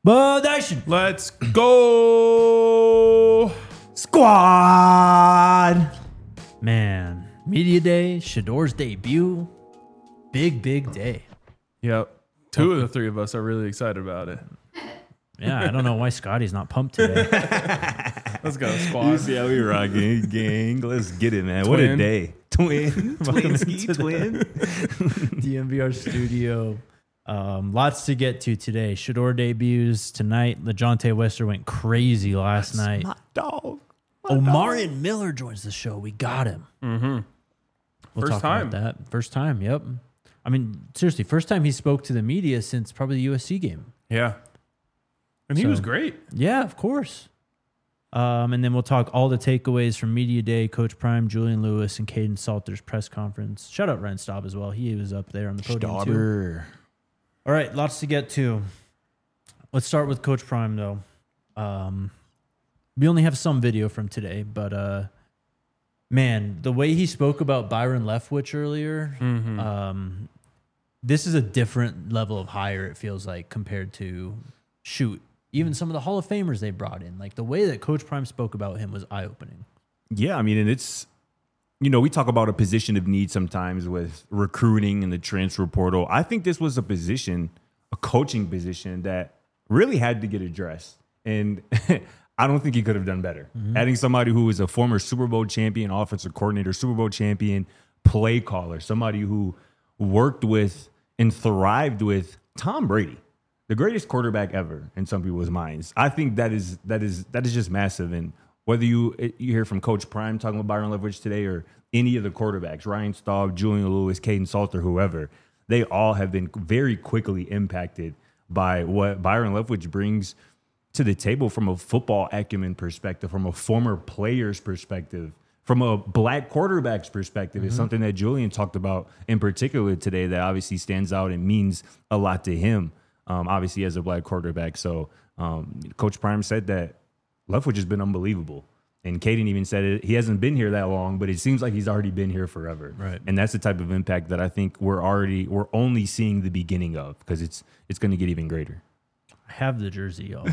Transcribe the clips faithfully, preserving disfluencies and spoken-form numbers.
Bud Nation. Let's go. Squad. Man, Media Day, Shedor's debut. Big, big day. Yep. Two of the three of us are really excited about it. Yeah, I don't know why Scotty's not pumped today. Let's go, squad. See how we rocking, gang. Let's get it, man. Twin. What a day. Twin. Welcome Twin ski to the twin. D M V R studio. Um, lots to get to today. Shedor debuts tonight. LeJontay Wester went crazy last That's night. my dog. My Omarion dog. Miller joins the show. We got him. Mm-hmm. We'll First talk time. about that. First time, yep. I mean, seriously, first time he spoke to the media since probably the U S C game. Yeah. And he So- was great. Yeah, of course. Um, and then we'll talk all the takeaways from Media Day, Coach Prime, Julian Lewis, and Caden Salter's press conference. Shout out Ren Staub as well. He was up there on the podium too. Stauber. All right, lots to get to. Let's start with Coach Prime, though. Um, we only have some video from today, but uh, man, the way he spoke about Byron Leftwich earlier, Mm-hmm. um, this is a different level of hire, it feels like, compared to, shoot, even some of the Hall of Famers they brought in. Like, the way that Coach Prime spoke about him was eye-opening. Yeah, I mean, and it's, you know, we talk about a position of need sometimes with recruiting and the transfer portal. I think this was a position, a coaching position that really had to get addressed. And I don't think he could have done better. Mm-hmm. Adding somebody who was a former Super Bowl champion, offensive coordinator, Super Bowl champion, play caller, somebody who worked with and thrived with Tom Brady, the greatest quarterback ever in some people's minds. I think that is that is that is just massive. And whether you you hear from Coach Prime talking about Byron Leftwich today or any of the quarterbacks, Ryan Staub, Julian Lewis, Caden Salter, whoever, they all have been very quickly impacted by what Byron Leftwich brings to the table from a football acumen perspective, from a former player's perspective, from a black quarterback's perspective. Mm-hmm. Is something that Julian talked about in particular today that obviously stands out and means a lot to him, um, obviously as a black quarterback. So um, Coach Prime said that Leftwich has been unbelievable. And Caden even said it. He hasn't been here that long, but it seems like he's already been here forever. Right. And that's the type of impact that I think we're already we're only seeing the beginning of, because it's it's going to get even greater. I have the jersey, y'all.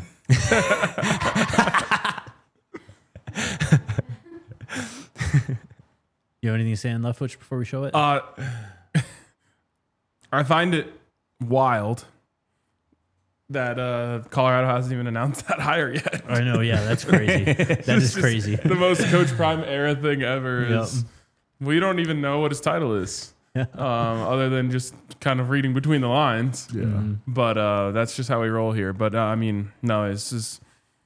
You have anything to say on Leftwich before we show it? Uh, I find it wild that uh, Colorado hasn't even announced that hire yet. I know, yeah, that's crazy. That It's is just crazy. The most Coach Prime era thing ever Yep. is we don't even know what his title is, um, other than just kind of reading between the lines. Yeah. Mm-hmm. But uh, that's just how we roll here. But uh, I mean, no, this is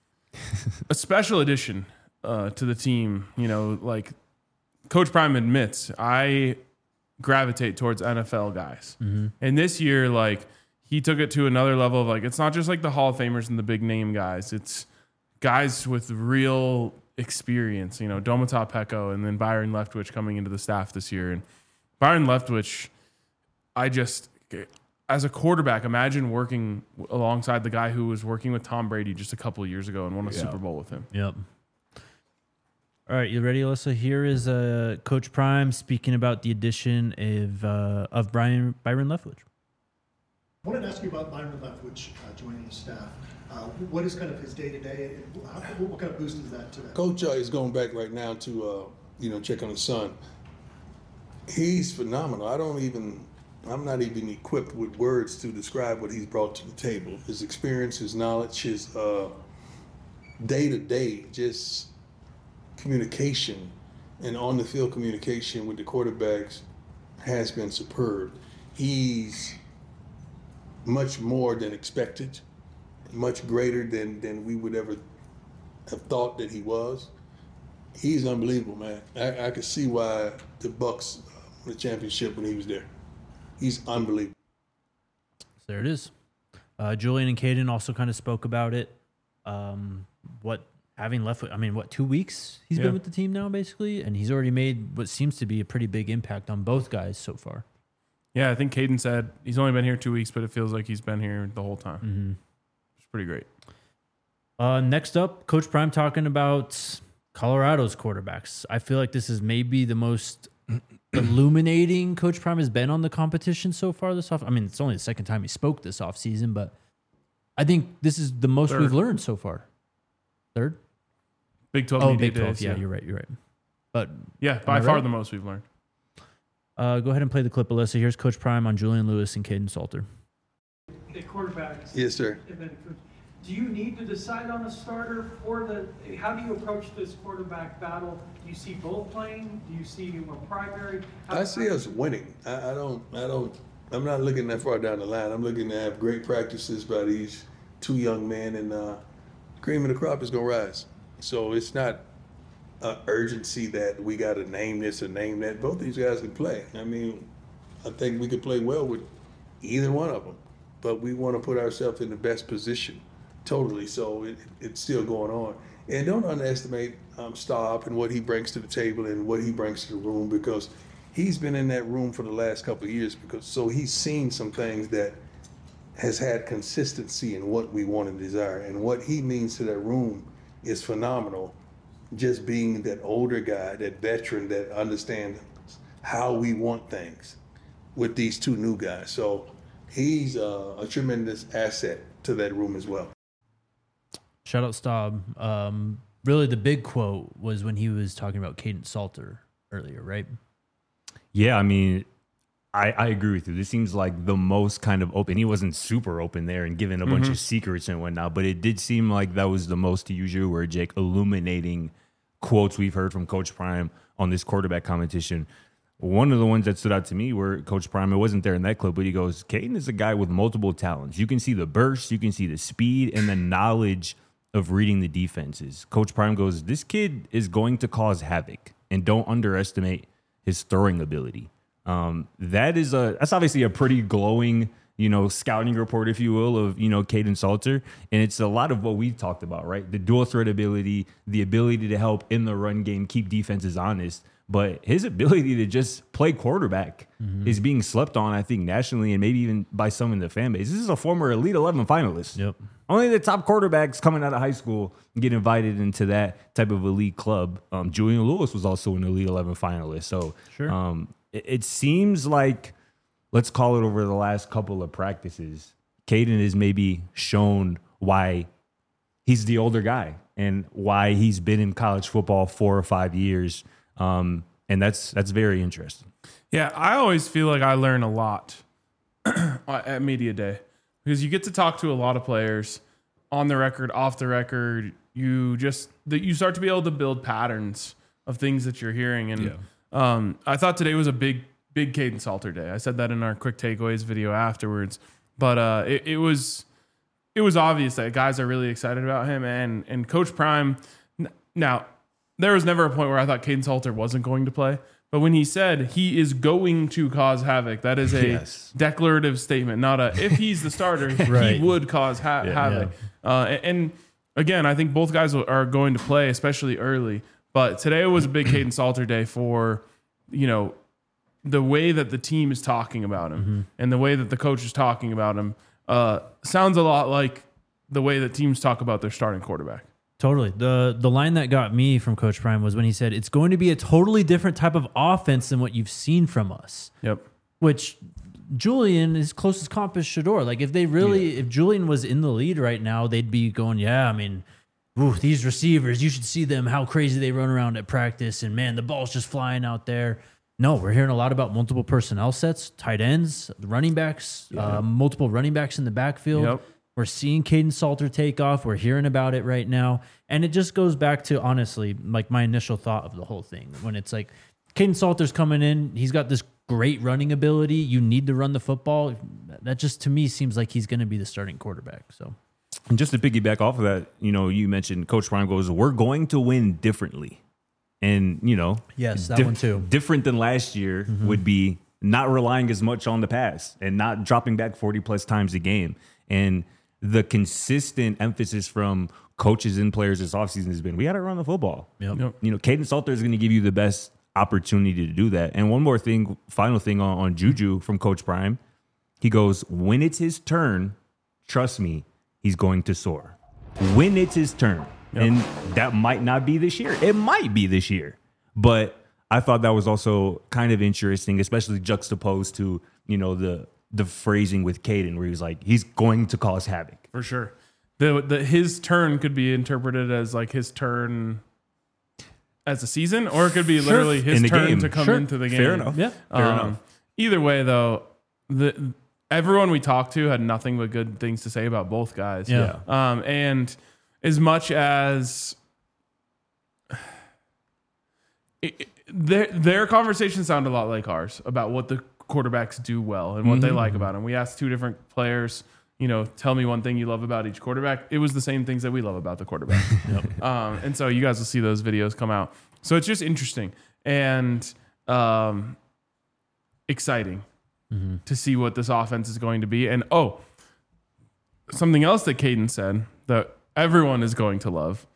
a special addition uh, to the team. You know, like Coach Prime admits, I gravitate towards N F L guys. Mm-hmm. And this year, like, he took it to another level of, like, it's not just like the Hall of Famers and the big name guys. It's guys with real experience, you know, Domata Peko and then Byron Leftwich coming into the staff this year. And Byron Leftwich, I just, as a quarterback, imagine working alongside the guy who was working with Tom Brady just a couple of years ago and won a Yeah. Super Bowl with him. Yep. All right, you ready, Alyssa? Here is uh, Coach Prime speaking about the addition of uh, of Brian Byron Leftwich. I wanted to ask you about Byron Leftwich uh, joining the staff. Uh, what is kind of his day-to-day, and how, what kind of boost is that to that? Coach uh, is going back right now to, uh, you know, check on his son. He's phenomenal. I don't even, I'm not even equipped with words to describe what he's brought to the table. His experience, his knowledge, his uh, day-to-day just communication and on-the-field communication with the quarterbacks has been superb. He's much more than expected, much greater than, than we would ever have thought that he was. He's unbelievable, man. I, I could see why the Bucks won the championship when he was there. He's unbelievable. So there it is. Uh, Julian and Caden also kind of spoke about it. Um, what having Leftwich, I mean, what, two weeks he's Yeah. been with the team now, basically? And he's already made what seems to be a pretty big impact on both guys so far. Yeah, I think Caden said he's only been here two weeks, but it feels like he's been here the whole time. Mm-hmm. It's pretty great. Uh, next up, Coach Prime talking about Colorado's quarterbacks. I feel like this is maybe the most illuminating Coach Prime has been on the competition so far this off. I mean, it's only the second time he spoke this offseason, but I think this is the most Third. we've learned so far. Third? Big twelve Oh, media Big twelve. days. Yeah, you're right. You're right. But Yeah, by I far right? the most we've learned. uh, go ahead and play the clip, Alyssa. Here's Coach Prime on Julian Lewis and Caden Salter. The quarterbacks. Yes, sir. And then coach. Do you need to decide on a starter for the, how do you approach this quarterback battle? Do you see both playing? Do you see a primary? How- I see us winning. I, I don't. I don't. I'm not looking that far down the line. I'm looking to have great practices by these two young men, and uh, cream of the crop is gonna rise. So it's not an urgency that we got to name this or name that. Both these guys can play. I mean, I think we could play well with either one of them, but we want to put ourselves in the best position. Totally. So it, it's still going on. And don't underestimate um, Staub and what he brings to the table and what he brings to the room, because he's been in that room for the last couple of years. Because so he's seen some things that has had consistency in what we want and desire. And what he means to that room is phenomenal. Just being that older guy, that veteran that understands how we want things with these two new guys. So he's uh, a tremendous asset to that room as well. Shout out Staub. Um, really, the big quote was when he was talking about Caden Salter earlier, right? Yeah, I mean, I, I agree with you. This seems like the most kind of open. He wasn't super open there and giving a bunch of secrets and whatnot, but it did seem like that was the most, to use your word, Jake, illuminating quotes we've heard from Coach Prime on this quarterback competition. One of the ones that stood out to me were Coach Prime, it wasn't there in that clip, but he goes, Caden is a guy with multiple talents. You can see the burst, you can see the speed and the knowledge of reading the defenses. Coach Prime goes, this kid is going to cause havoc, and don't underestimate his throwing ability. Um, that is a that's obviously a pretty glowing, you know, scouting report, if you will, of, you know, Caden Salter. And it's a lot of what we've talked about, right? The dual threat ability, the ability to help in the run game, keep defenses honest. But his ability to just play quarterback mm-hmm. is being slept on, I think, nationally and maybe even by some in the fan base. This is a former Elite eleven finalist. Yep. Only the top quarterbacks coming out of high school get invited into that type of elite club. Um, Julian Lewis was also an Elite eleven finalist. So sure. um, it, it seems like, let's call it over the last couple of practices, Caden has maybe shown why he's the older guy and why he's been in college football four or five years. Um, and that's that's very interesting. Yeah, I always feel like I learn a lot at Media Day because you get to talk to a lot of players on the record, off the record. You just that you start to be able to build patterns of things that you're hearing. And Yeah. um, I thought today was a big, big Caden Salter day. I said that in our quick takeaways video afterwards, but uh, it, it was it was obvious that guys are really excited about him and and Coach Prime. Now, there was never a point where I thought Caden Salter wasn't going to play. But when he said he is going to cause havoc, that is a Yes. declarative statement, not a if he's the starter, Right. he would cause ha- havoc. Uh, and, and again, I think both guys are going to play, especially early. But today was a big Caden Salter day for, you know, the way that the team is talking about him Mm-hmm. and the way that the coach is talking about him uh, sounds a lot like the way that teams talk about their starting quarterback. Totally. The the line that got me from Coach Prime was when he said, it's going to be a totally different type of offense than what you've seen from us. Yep. Which Julian, his closest comp is Shador. Like if they really, if Julian was in the lead right now, they'd be going, yeah, I mean, ooh, these receivers, you should see them, how crazy they run around at practice. And man, the ball's just flying out there. No, we're hearing a lot about multiple personnel sets, tight ends, the running backs, uh, multiple running backs in the backfield. Yep. We're seeing Caden Salter take off. We're hearing about it right now. And it just goes back to, honestly, like my initial thought of the whole thing. When it's like, Caden Salter's coming in. He's got this great running ability. You need to run the football. That just, to me, seems like he's going to be the starting quarterback. So, And just to piggyback off of that, you know, you mentioned Coach Prime goes, we're going to win differently. And, you know, yes, that one too. Different than last year Mm-hmm. would be not relying as much on the pass and not dropping back forty plus times a game. And the consistent emphasis from coaches and players this offseason has been, we got to run the football. Yep. Yep. You know, Caden Salter is going to give you the best opportunity to do that. And one more thing, final thing on, on Juju from Coach Prime. He goes, when it's his turn, trust me, he's going to soar. When it's his turn. Yep. And that might not be this year. It might be this year. But I thought that was also kind of interesting, especially juxtaposed to, you know, the the phrasing with Caden where he was like, he's going to cause havoc. For sure. The, the his turn could be interpreted as like his turn as a season, or it could be literally his In the turn game. to come Sure. into the game. Fair enough. Yeah. Fair Um, enough. Either way, though, the everyone we talked to had nothing but good things to say about both guys. Yeah. Um, and as much as it, it- their their conversations sound a lot like ours about what the quarterbacks do well and what they like about them. We asked two different players, you know, tell me one thing you love about each quarterback. It was the same things that we love about the quarterback. um, and so you guys will see those videos come out. So it's just interesting and um, exciting to see what this offense is going to be. And oh, something else that Caden said that everyone is going to love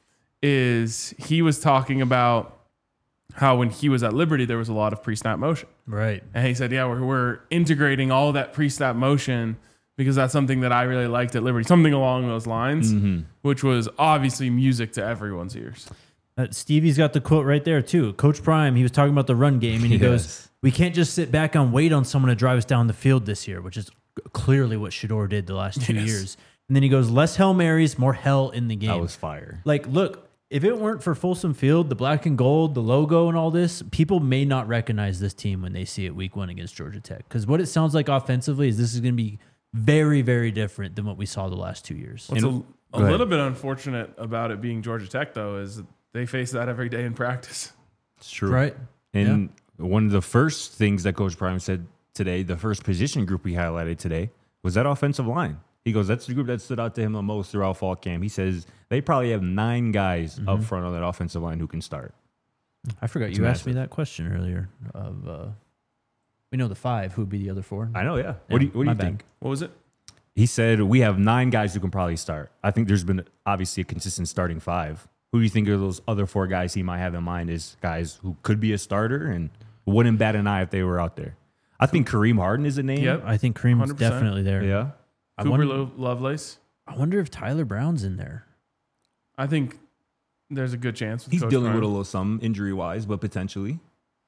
is he was talking about how when he was at Liberty, there was a lot of pre-snap motion. Right. And he said, yeah, we're, we're integrating all that pre-snap motion because that's something that I really liked at Liberty, something along those lines, which was obviously music to everyone's ears. Uh, Stevie's got the quote right there too. Coach Prime, he was talking about the run game, and he Yes. goes, "We can't just sit back and wait on someone to drive us down the field this year," which is clearly what Shedeur did the last two Yes. years. And then he goes, "Less Hail Marys, more hell in the game." That was fire. Like, look, if it weren't for Folsom Field, the black and gold, the logo, and all this, people may not recognize this team when they see it week one against Georgia Tech. Because what it sounds like offensively is this is going to be very, very different than what we saw the last two years. What's And- a, go a ahead. little bit unfortunate about it being Georgia Tech, though, is they face that every day in practice. It's true. Right? And one of the first things that Coach Prime said today, the first position group we highlighted today, was that offensive line. He goes, that's the group that stood out to him the most throughout fall camp. He says they probably have nine guys up front on that offensive line who can start. I forgot It's you asked me massive. that question earlier. Of uh, we know the five. Who would be the other four? I know, yeah. What do you, what do my you bad. think? What was it? He said we have nine guys who can probably start. I think there's been obviously a consistent starting five. Who do you think are those other four guys he might have in mind as guys who could be a starter and wouldn't bat an eye if they were out there? I think Kareem Harden is a name. Yep. I think Kareem's one hundred percent. definitely there. Yeah. I Cooper wonder, Lo- Lovelace. I wonder if Tyler Brown's in there. I think there's a good chance. With He's Coach dealing Prime. with a little some injury wise, but potentially.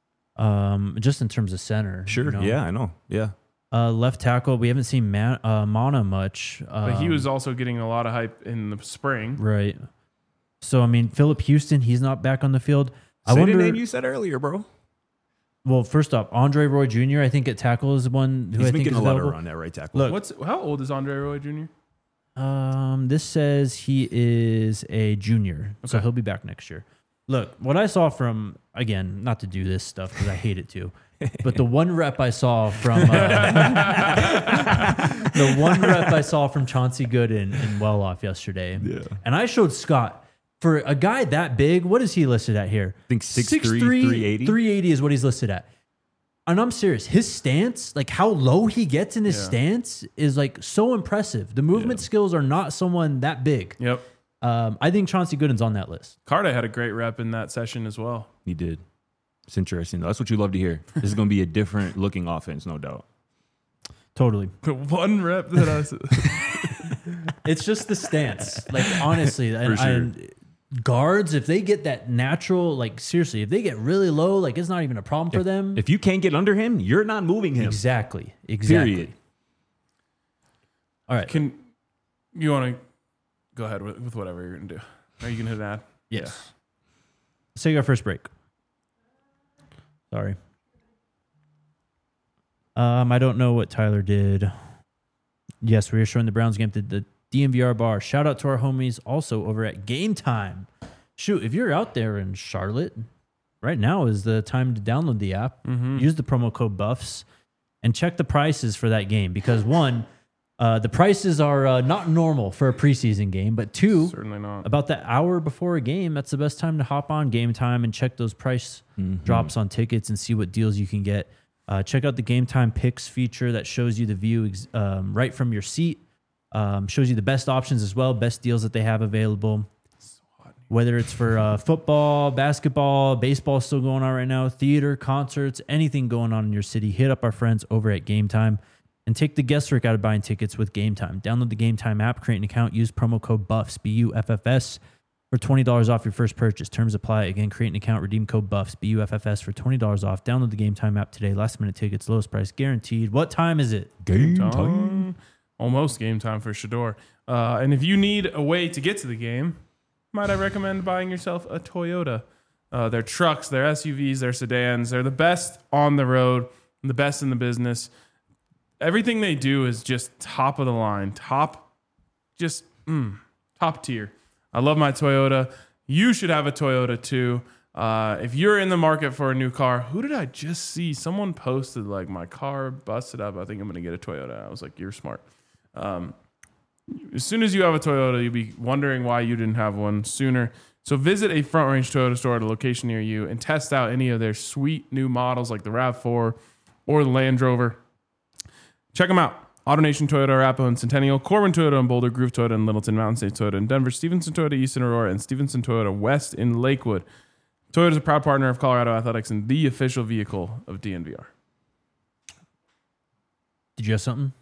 Um, just in terms of center. Sure. you know. Yeah, I know. Yeah. Uh, left tackle. We haven't seen Man, uh, Mana much. Um, But he was also getting a lot of hype in the spring. right. So I mean, Philip Houston, he's not back on the field. I Say wonder. the name you said earlier, bro. Well, first off, Andre Roy Junior I think at tackle is one who He's I been think getting is a lot of available. run at right tackle. Look, What's how old is Andre Roy Junior? Um, this says he is a junior, so Okay. he'll be back next year. Look, what I saw from, again, not to do this stuff because I hate it too, but the one rep I saw from uh, the one rep I saw from Chauncey Good in, in Well-Off yesterday, Yeah. and I showed Scott for a guy that big. What is he listed at here? I think six three, three eighty. three eighty is what he's listed at. And I'm serious. His stance, like how low he gets in his Yeah. stance, is like so impressive. The movement skills are not someone that big. Yep. Um, I think Chauncey Gooden's on that list. Carter had a great rep in that session as well. He did. It's interesting. Though. That's what you love to hear. This is going to be a different looking offense, no doubt. Totally. The one rep that I said. It's just the stance. Like honestly, and, sure. and guards, if they get that natural, like seriously, if they get really low, like it's not even a problem for them. If you can't get under him, you're not moving him. Exactly. Exactly. Period. All right. Can you want to go ahead with, with whatever you're going to do? Are you going to hit an ad? Yes. Let's take our first break. Sorry. Um, I don't know what Tyler did. Yes, we are showing the Browns game at the D M V R bar. Shout out to our homies also over at Game Time. Shoot, if you're out there in Charlotte, right now is the time to download the app. Use the promo code BUFFS and check the prices for that game because one, uh, the prices are uh, not normal for a preseason game, but two, Certainly not. about the hour before a game, that's the best time to hop on Game Time and check those price drops on tickets and see what deals you can get. Uh, check out the Game Time Picks feature that shows you the view ex- um, right from your seat. Um, shows you the best options as well, best deals that they have available. Whether it's for uh, football, basketball, baseball still going on right now, theater, concerts, anything going on in your city, hit up our friends over at Game Time and take the guesswork out of buying tickets with Game Time. Download the Game Time app, create an account, use promo code BUFFS, B U F F S. for twenty dollars off your first purchase. Terms apply. Again, create an account, redeem code BUFFS, B U F F S for twenty dollars off. Download the Game Time app today. Last minute tickets, lowest price guaranteed. What time is it? Game Time. time. Almost game time for Shador. Uh, and if you need a way to get to the game, might I recommend buying yourself a Toyota? Uh, their trucks, their S U Vs, their sedans, they're the best on the road, the best in the business. Everything they do is just top of the line, top, just mm, top tier. I love my Toyota. You should have a Toyota too. Uh, if you're in the market for a new car, who did I just see? Someone posted like my car busted up. I think I'm going to get a Toyota. I was like, you're smart. Um, as soon as you have a Toyota, you'll be wondering why you didn't have one sooner. So visit a Front Range Toyota store at a location near you and test out any of their sweet new models like the RAV four or the Land Rover. Check them out. AutoNation Toyota, Arapahoe and Centennial, Corbin Toyota and Boulder, Groove Toyota and Littleton, Mountain State Toyota in Denver, Stevenson Toyota East in Aurora, and Stevenson Toyota West in Lakewood. Toyota is a proud partner of Colorado Athletics and the official vehicle of D N V R. Did you have something?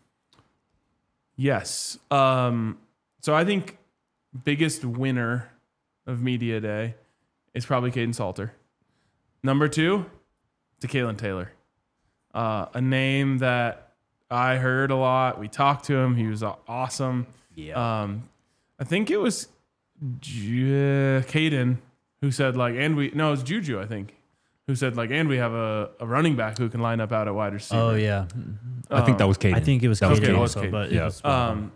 Yes. Um, so I think biggest winner of Media Day is probably Caden Salter. Number two, DeKalen Taylor. Uh, a name that I heard a lot. We talked to him. He was awesome. Yeah. Um, I think it was J- Caden who said like, and we, no, it was Juju, I think, who said like, and we have a, a running back who can line up out at wide receiver. Oh, yeah. I think that was Caden. I think it was That was Caden Caden. also, Okay, it was but Yeah. it was Um,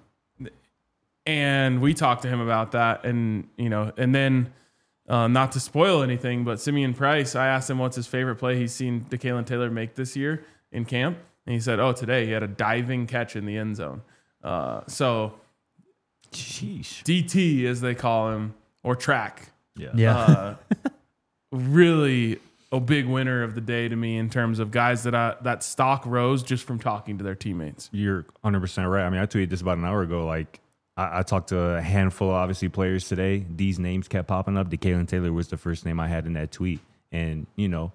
and we talked to him about that, and you know, and then uh, not to spoil anything, but Simeon Price, I asked him what's his favorite play he's seen DeKalen Taylor make this year in camp, and he said, "Oh, today he had a diving catch in the end zone." Uh, so Sheesh. D T, as they call him, or track, Yeah. yeah. uh, really a big winner of the day to me in terms of guys that I, that stock rose just from talking to their teammates. You're one hundred percent right. I mean, I tweeted this about an hour ago. Like, I, I talked to a handful of, obviously, players today. These names kept popping up. DeKalen Taylor was the first name I had in that tweet. And, you know,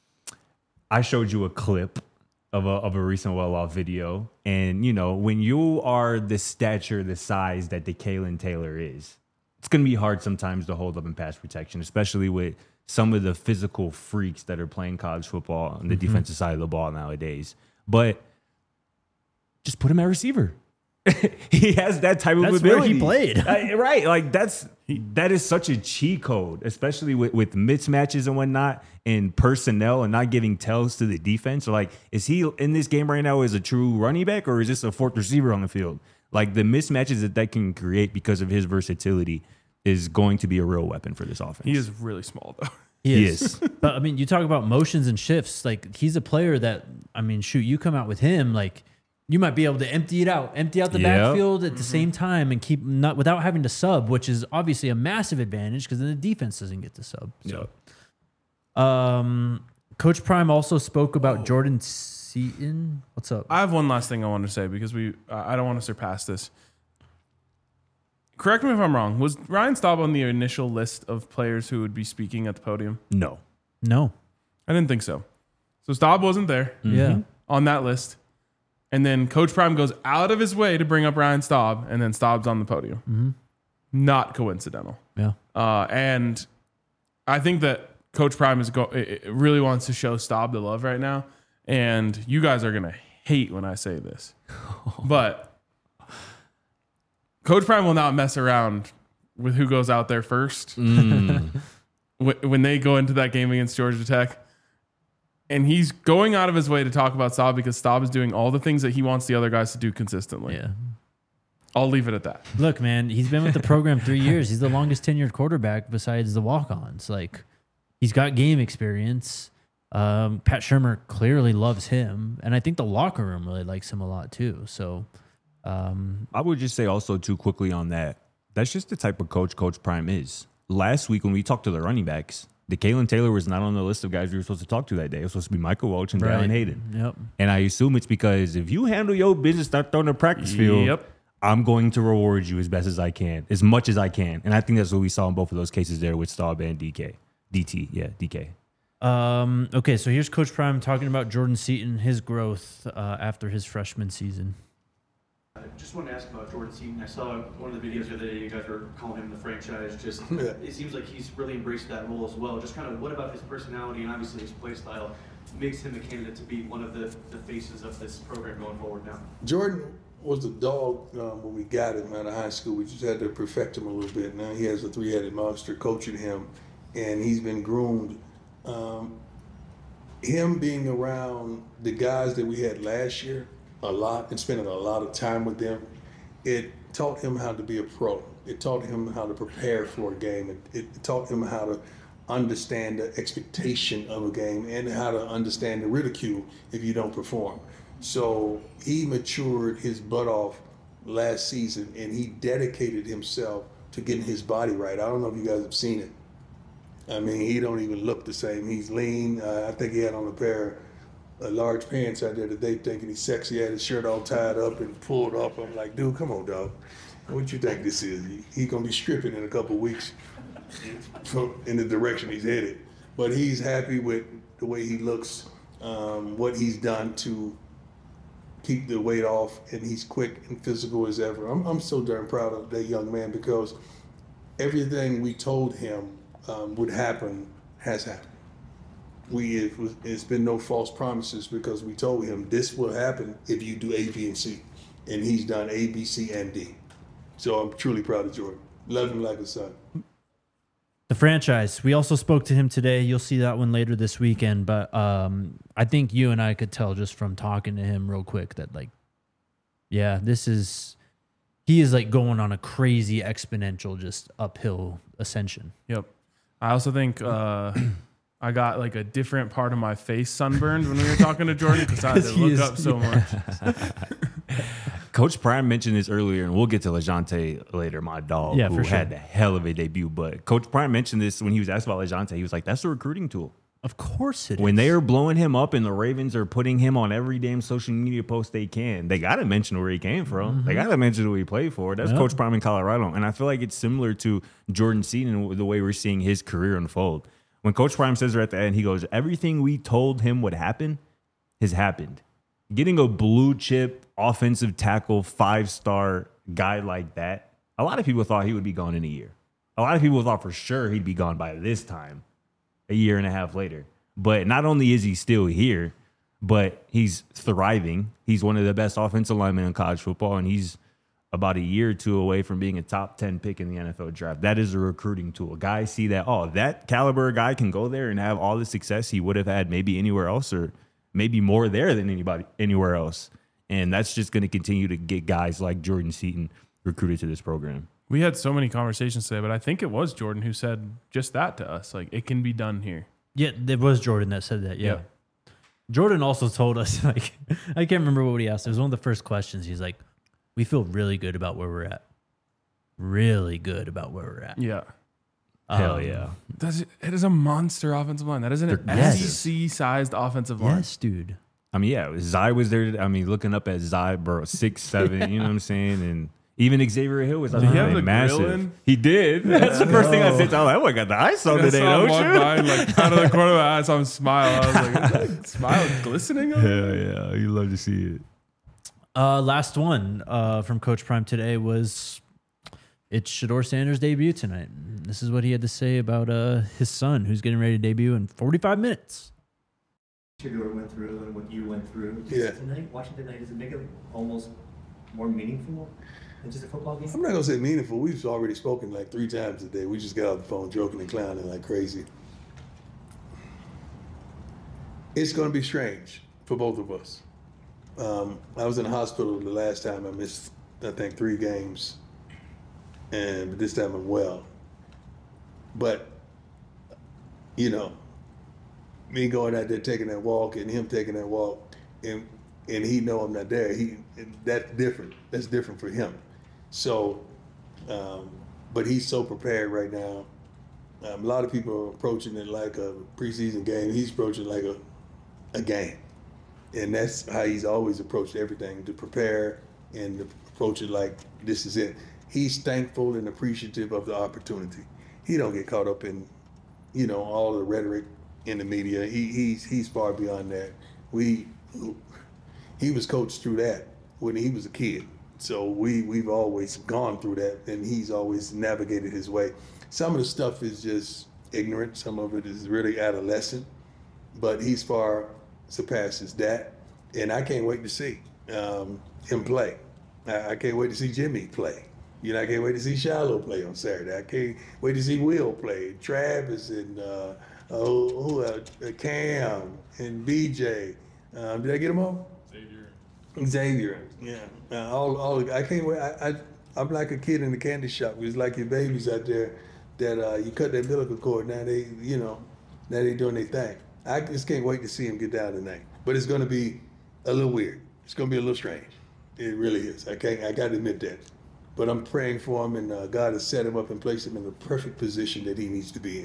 I showed you a clip of a, of a recent well-off video. And, you know, when you are the stature, the size that DeKalen Taylor is, it's going to be hard sometimes to hold up in pass protection, especially with some of the physical freaks that are playing college football on the Mm-hmm. defensive side of the ball nowadays. But just put him at receiver. He has that type of That's ability. where he played. Uh, right. Like that's that is such a cheat code, especially with, with mismatches and whatnot and personnel and not giving tells to the defense. Like, is he in this game right now as a true running back or is this a fourth receiver on the field? Like the mismatches that that can create because of his versatility is going to be a real weapon for this offense. He is really small though. He He is. is. But I mean, you talk about motions and shifts. Like he's a player that, I mean, shoot, you come out with him, like you might be able to empty it out, empty out the Yep. backfield at the same time and keep not without having to sub, which is obviously a massive advantage because then the defense doesn't get to sub. So, um, Coach Prime also spoke about Jordan Seaton. What's up? I have one last thing I want to say because we I don't want to surpass this. Correct me if I'm wrong. Was Ryan Staub on the initial list of players who would be speaking at the podium? No. No. I didn't think so. So Staub wasn't there Yeah. on that list. And then Coach Prime goes out of his way to bring up Ryan Staub, and then Staub's on the podium. Mm-hmm. Not coincidental. Yeah. Uh, and I think that Coach Prime is go- it it really wants to show Staub the love right now. And you guys are going to hate when I say this. But Coach Prime will not mess around with who goes out there first. Mm. Wh- when they go into that game against Georgia Tech. And he's going out of his way to talk about Staub because Staub is doing all the things that he wants the other guys to do consistently. Yeah. I'll leave it at that. Look, man, he's been with the program three years. He's the longest tenured quarterback besides the walk-ons. Like, he's got game experience. Um, Pat Shurmur clearly loves him, and I think the locker room really likes him a lot too. So, um, I would just say also too quickly on that. That's just the type of coach Coach Prime is. Last week when we talked to the running backs, DeKalen Taylor was not on the list of guys we were supposed to talk to that day. It was supposed to be Michael Welch and Right. Dallin Hayden. Yep. And I assume it's because if you handle your business, start throwing the practice field, Yep. I'm going to reward you as best as I can, as much as I can. And I think that's what we saw in both of those cases there with Staub and D K. D T, yeah, D K. Um, okay, so here's Coach Prime talking about Jordan Seaton, his growth uh, after his freshman season. I just wanted to ask about Jordan Seaton. I saw one of the videos the other day. You guys were calling him the franchise. Just Yeah. It seems like he's really embraced that role as well. Just kind of what about his personality and obviously his play style makes him a candidate to be one of the, the faces of this program going forward now? Jordan was a dog um, when we got him out of high school. We just had to perfect him a little bit. Now he has a three-headed monster coaching him, and he's been groomed. Um, him being around the guys that we had last year a lot and spending a lot of time with them, it taught him how to be a pro. It taught him how to prepare for a game. It, it taught him how to understand the expectation of a game and how to understand the ridicule if you don't perform. So he matured his butt off last season, and he dedicated himself to getting his body right. I don't know if you guys have seen it. I mean, he don't even look the same. He's lean. Uh, I think he had on a pair of uh, large pants out there today thinking he's sexy. He had his shirt all tied up and pulled up. I'm like, dude, come on, dog. What you think this is? He, he gonna be stripping in a couple weeks from, in the direction he's headed. But he's happy with the way he looks, um, what he's done to keep the weight off, and he's quick and physical as ever. I'm, I'm so darn proud of that young man because everything we told him um, would happen has happened. We it was, it's been no false promises because we told him this will happen if you do A, B, and C, and he's done A, B, C, and D. So I'm truly proud of Jordan. Love him like a son. The franchise. We also spoke to him today. You'll see that one later this weekend. But um, I think you and I could tell just from talking to him real quick that, like, yeah, this is, he is like going on a crazy exponential, just uphill ascension. Yep. I also think uh, I got like a different part of my face sunburned when we were talking to Jordan because I had to He look is- up so much. Coach Prime mentioned this earlier, and we'll get to LeJounte later, my dog, Yeah, who for sure. had the hell of a debut. But Coach Prime mentioned this when he was asked about LeJounte. He was like, that's a recruiting tool. Of course it is. When they are blowing him up and the Ravens are putting him on every damn social media post they can, they got to mention where he came from. They got to mention who he played for. That's Yep. Coach Prime in Colorado. And I feel like it's similar to Jordan Seaton, the way we're seeing his career unfold. When Coach Prime says there at the end, he goes, everything we told him would happen has happened. Getting a blue chip offensive tackle five-star guy like that, a lot of people thought he would be gone in a year. A lot of people thought for sure he'd be gone by this time, a year and a half later. But not only is he still here, but he's thriving. He's one of the best offensive linemen in college football, and he's about a year or two away from being a top ten pick in the N F L draft. That is a recruiting tool. Guys see that, oh, that caliber guy can go there and have all the success he would have had maybe anywhere else, or maybe more there than anybody anywhere else. And that's just going to continue to get guys like Jordan Seaton recruited to this program. We had so many conversations today, but I think it was Jordan who said just that to us. Like, it can be done here. Yeah, it was Jordan that said that. Yeah. Yep. Jordan also told us, like, I can't remember what he asked. It was one of the first questions. He's like, we feel really good about where we're at. Really good about where we're at. Yeah. Hell Um, yeah. That's, it is a monster offensive line. That is an They're- yes. S E C-sized offensive line. Yes, dude. I mean, yeah, Zai was there. I mean, looking up at Zai, bro, six, seven, you know what I'm saying? And even Xavier Hill was Did he have man, the massive. grill in? He did. That's the first thing I said. I was like, oh, I got the ice on I today, saw him don't walk you? by and, like, out of the corner of my eye, I saw him smile. I was like, is that smile glistening? on him? Yeah, yeah. You love to see it. Uh, last one uh, from Coach Prime today was it's Shedeur Sanders' debut tonight. This is what he had to say about uh, his son, who's getting ready to debut in forty-five minutes. Shedeur went through and what you went through. Does Yeah. Tonight, watching tonight, does it make it almost more meaningful than just a football game? I'm not gonna say meaningful. We've already spoken like three times today. We just got off the phone joking and clowning like crazy. It's gonna be strange for both of us. Um, I was in the hospital the last time. I missed, I think, three games, and this time I'm well. But you know, me going out there taking that walk and him taking that walk, and and he know I'm not there. He that's different. That's different for him. So, um, but he's so prepared right now. Um, a lot of people are approaching it like a preseason game. He's approaching it like a a game, and that's how he's always approached everything: to prepare and to approach it like this is it. He's thankful and appreciative of the opportunity. He don't get caught up in, you know, all the rhetoric in the media. He he's he's far beyond that. We he was coached through that when he was a kid. So we, we've always gone through that, and he's always navigated his way. Some of the stuff is just ignorant. Some of it is really adolescent, but he's far surpasses that. And I can't wait to see um, him play. I, I can't wait to see Jimmy play. You know, I can't wait to see Shiloh play on Saturday. I can't wait to see Will play, Travis and uh, uh, who, uh, Cam and B J. Um, did I get them all? Xavier. Xavier, yeah. Uh, all, all. I can't wait. I, I, I'm like a kid in the candy shop. It's like your babies out there that uh, you cut their umbilical cord. Now they, you know, now they doing their thing. I just can't wait to see him get down tonight. But it's going to be a little weird. It's going to be a little strange. It really is. I can't. I got to admit that. But I'm praying for him, and uh, God has set him up and placed him in the perfect position that he needs to be in.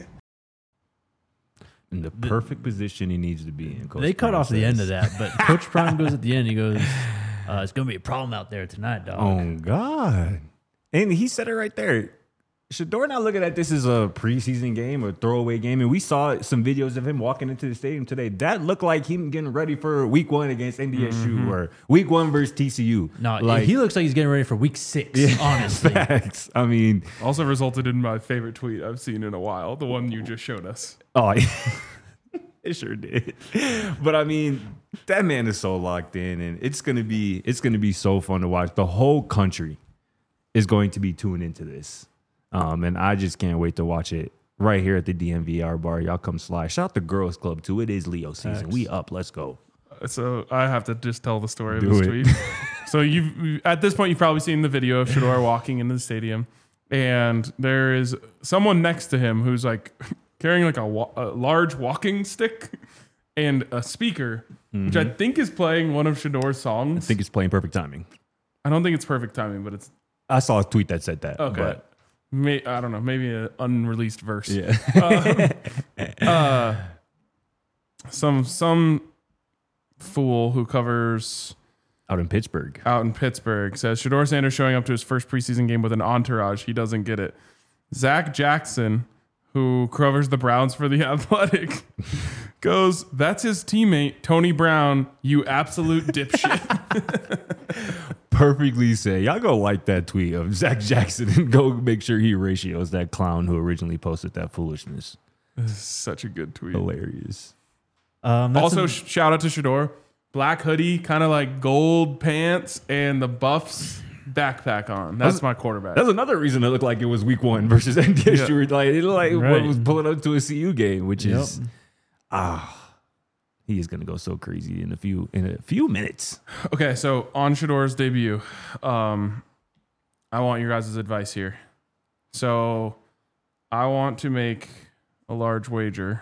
In the perfect position he needs to be in. Coach They cut Prime off the says. end of that, but Coach Prime goes at the end. He goes, uh, "It's going to be a problem out there tonight, dog." Oh, God. And he said it right there. Shedeur not looking at this as a preseason game or throwaway game. And we saw some videos of him walking into the stadium today. That looked like him getting ready for week one against N D S U mm-hmm. or week one versus T C U. No, like, he looks like he's getting ready for week six, yeah, honestly. Facts. I mean, Also resulted in my favorite tweet I've seen in a while, the one you just showed us. oh, it sure did. But I mean, that man is so locked in, and it's gonna be it's gonna be so fun to watch. The whole country is going to be tuned into this. Um, and I just can't wait to watch it right here at the D M V R bar. Y'all come slide. Shout out the Girls Club too. It is Leo season. Thanks. We up. Let's go. So I have to just tell the story Do of this it. tweet. So you've at this point you've probably seen the video of Shedeur walking into the stadium, and there is someone next to him who's like carrying like a, wa- a large walking stick and a speaker, mm-hmm. which I think is playing one of Shedeur's songs. I think it's playing perfect timing. I don't think it's perfect timing, but it's I saw a tweet that said that. okay. But May, I don't know, maybe an unreleased verse. yeah. um, uh, some some fool who covers Out in Pittsburgh. out in Pittsburgh says Shedeur Sanders showing up to his first preseason game with an entourage. He doesn't get it. Zach Jackson, who covers the Browns for The Athletic, goes, "That's his teammate, Tony Brown, you absolute dipshit." Perfectly said. Y'all go like that tweet of Zach Jackson and go make sure he ratios that clown who originally posted that foolishness. This is such a good tweet. Hilarious. Um, that's Also, a- sh- shout out to Shedeur. Black hoodie, kind of like gold pants, and the Buffs backpack on. That's That's- my quarterback. That's another reason it looked like it was week one versus N D S U. Yeah. Like, it looked like Right. what was pulling up to a C U game, which Yep. is, ah, he is going to go so crazy in a few in a few minutes. Okay, so on Shedeur's debut, um, I want your guys' advice here. So I want to make a large wager.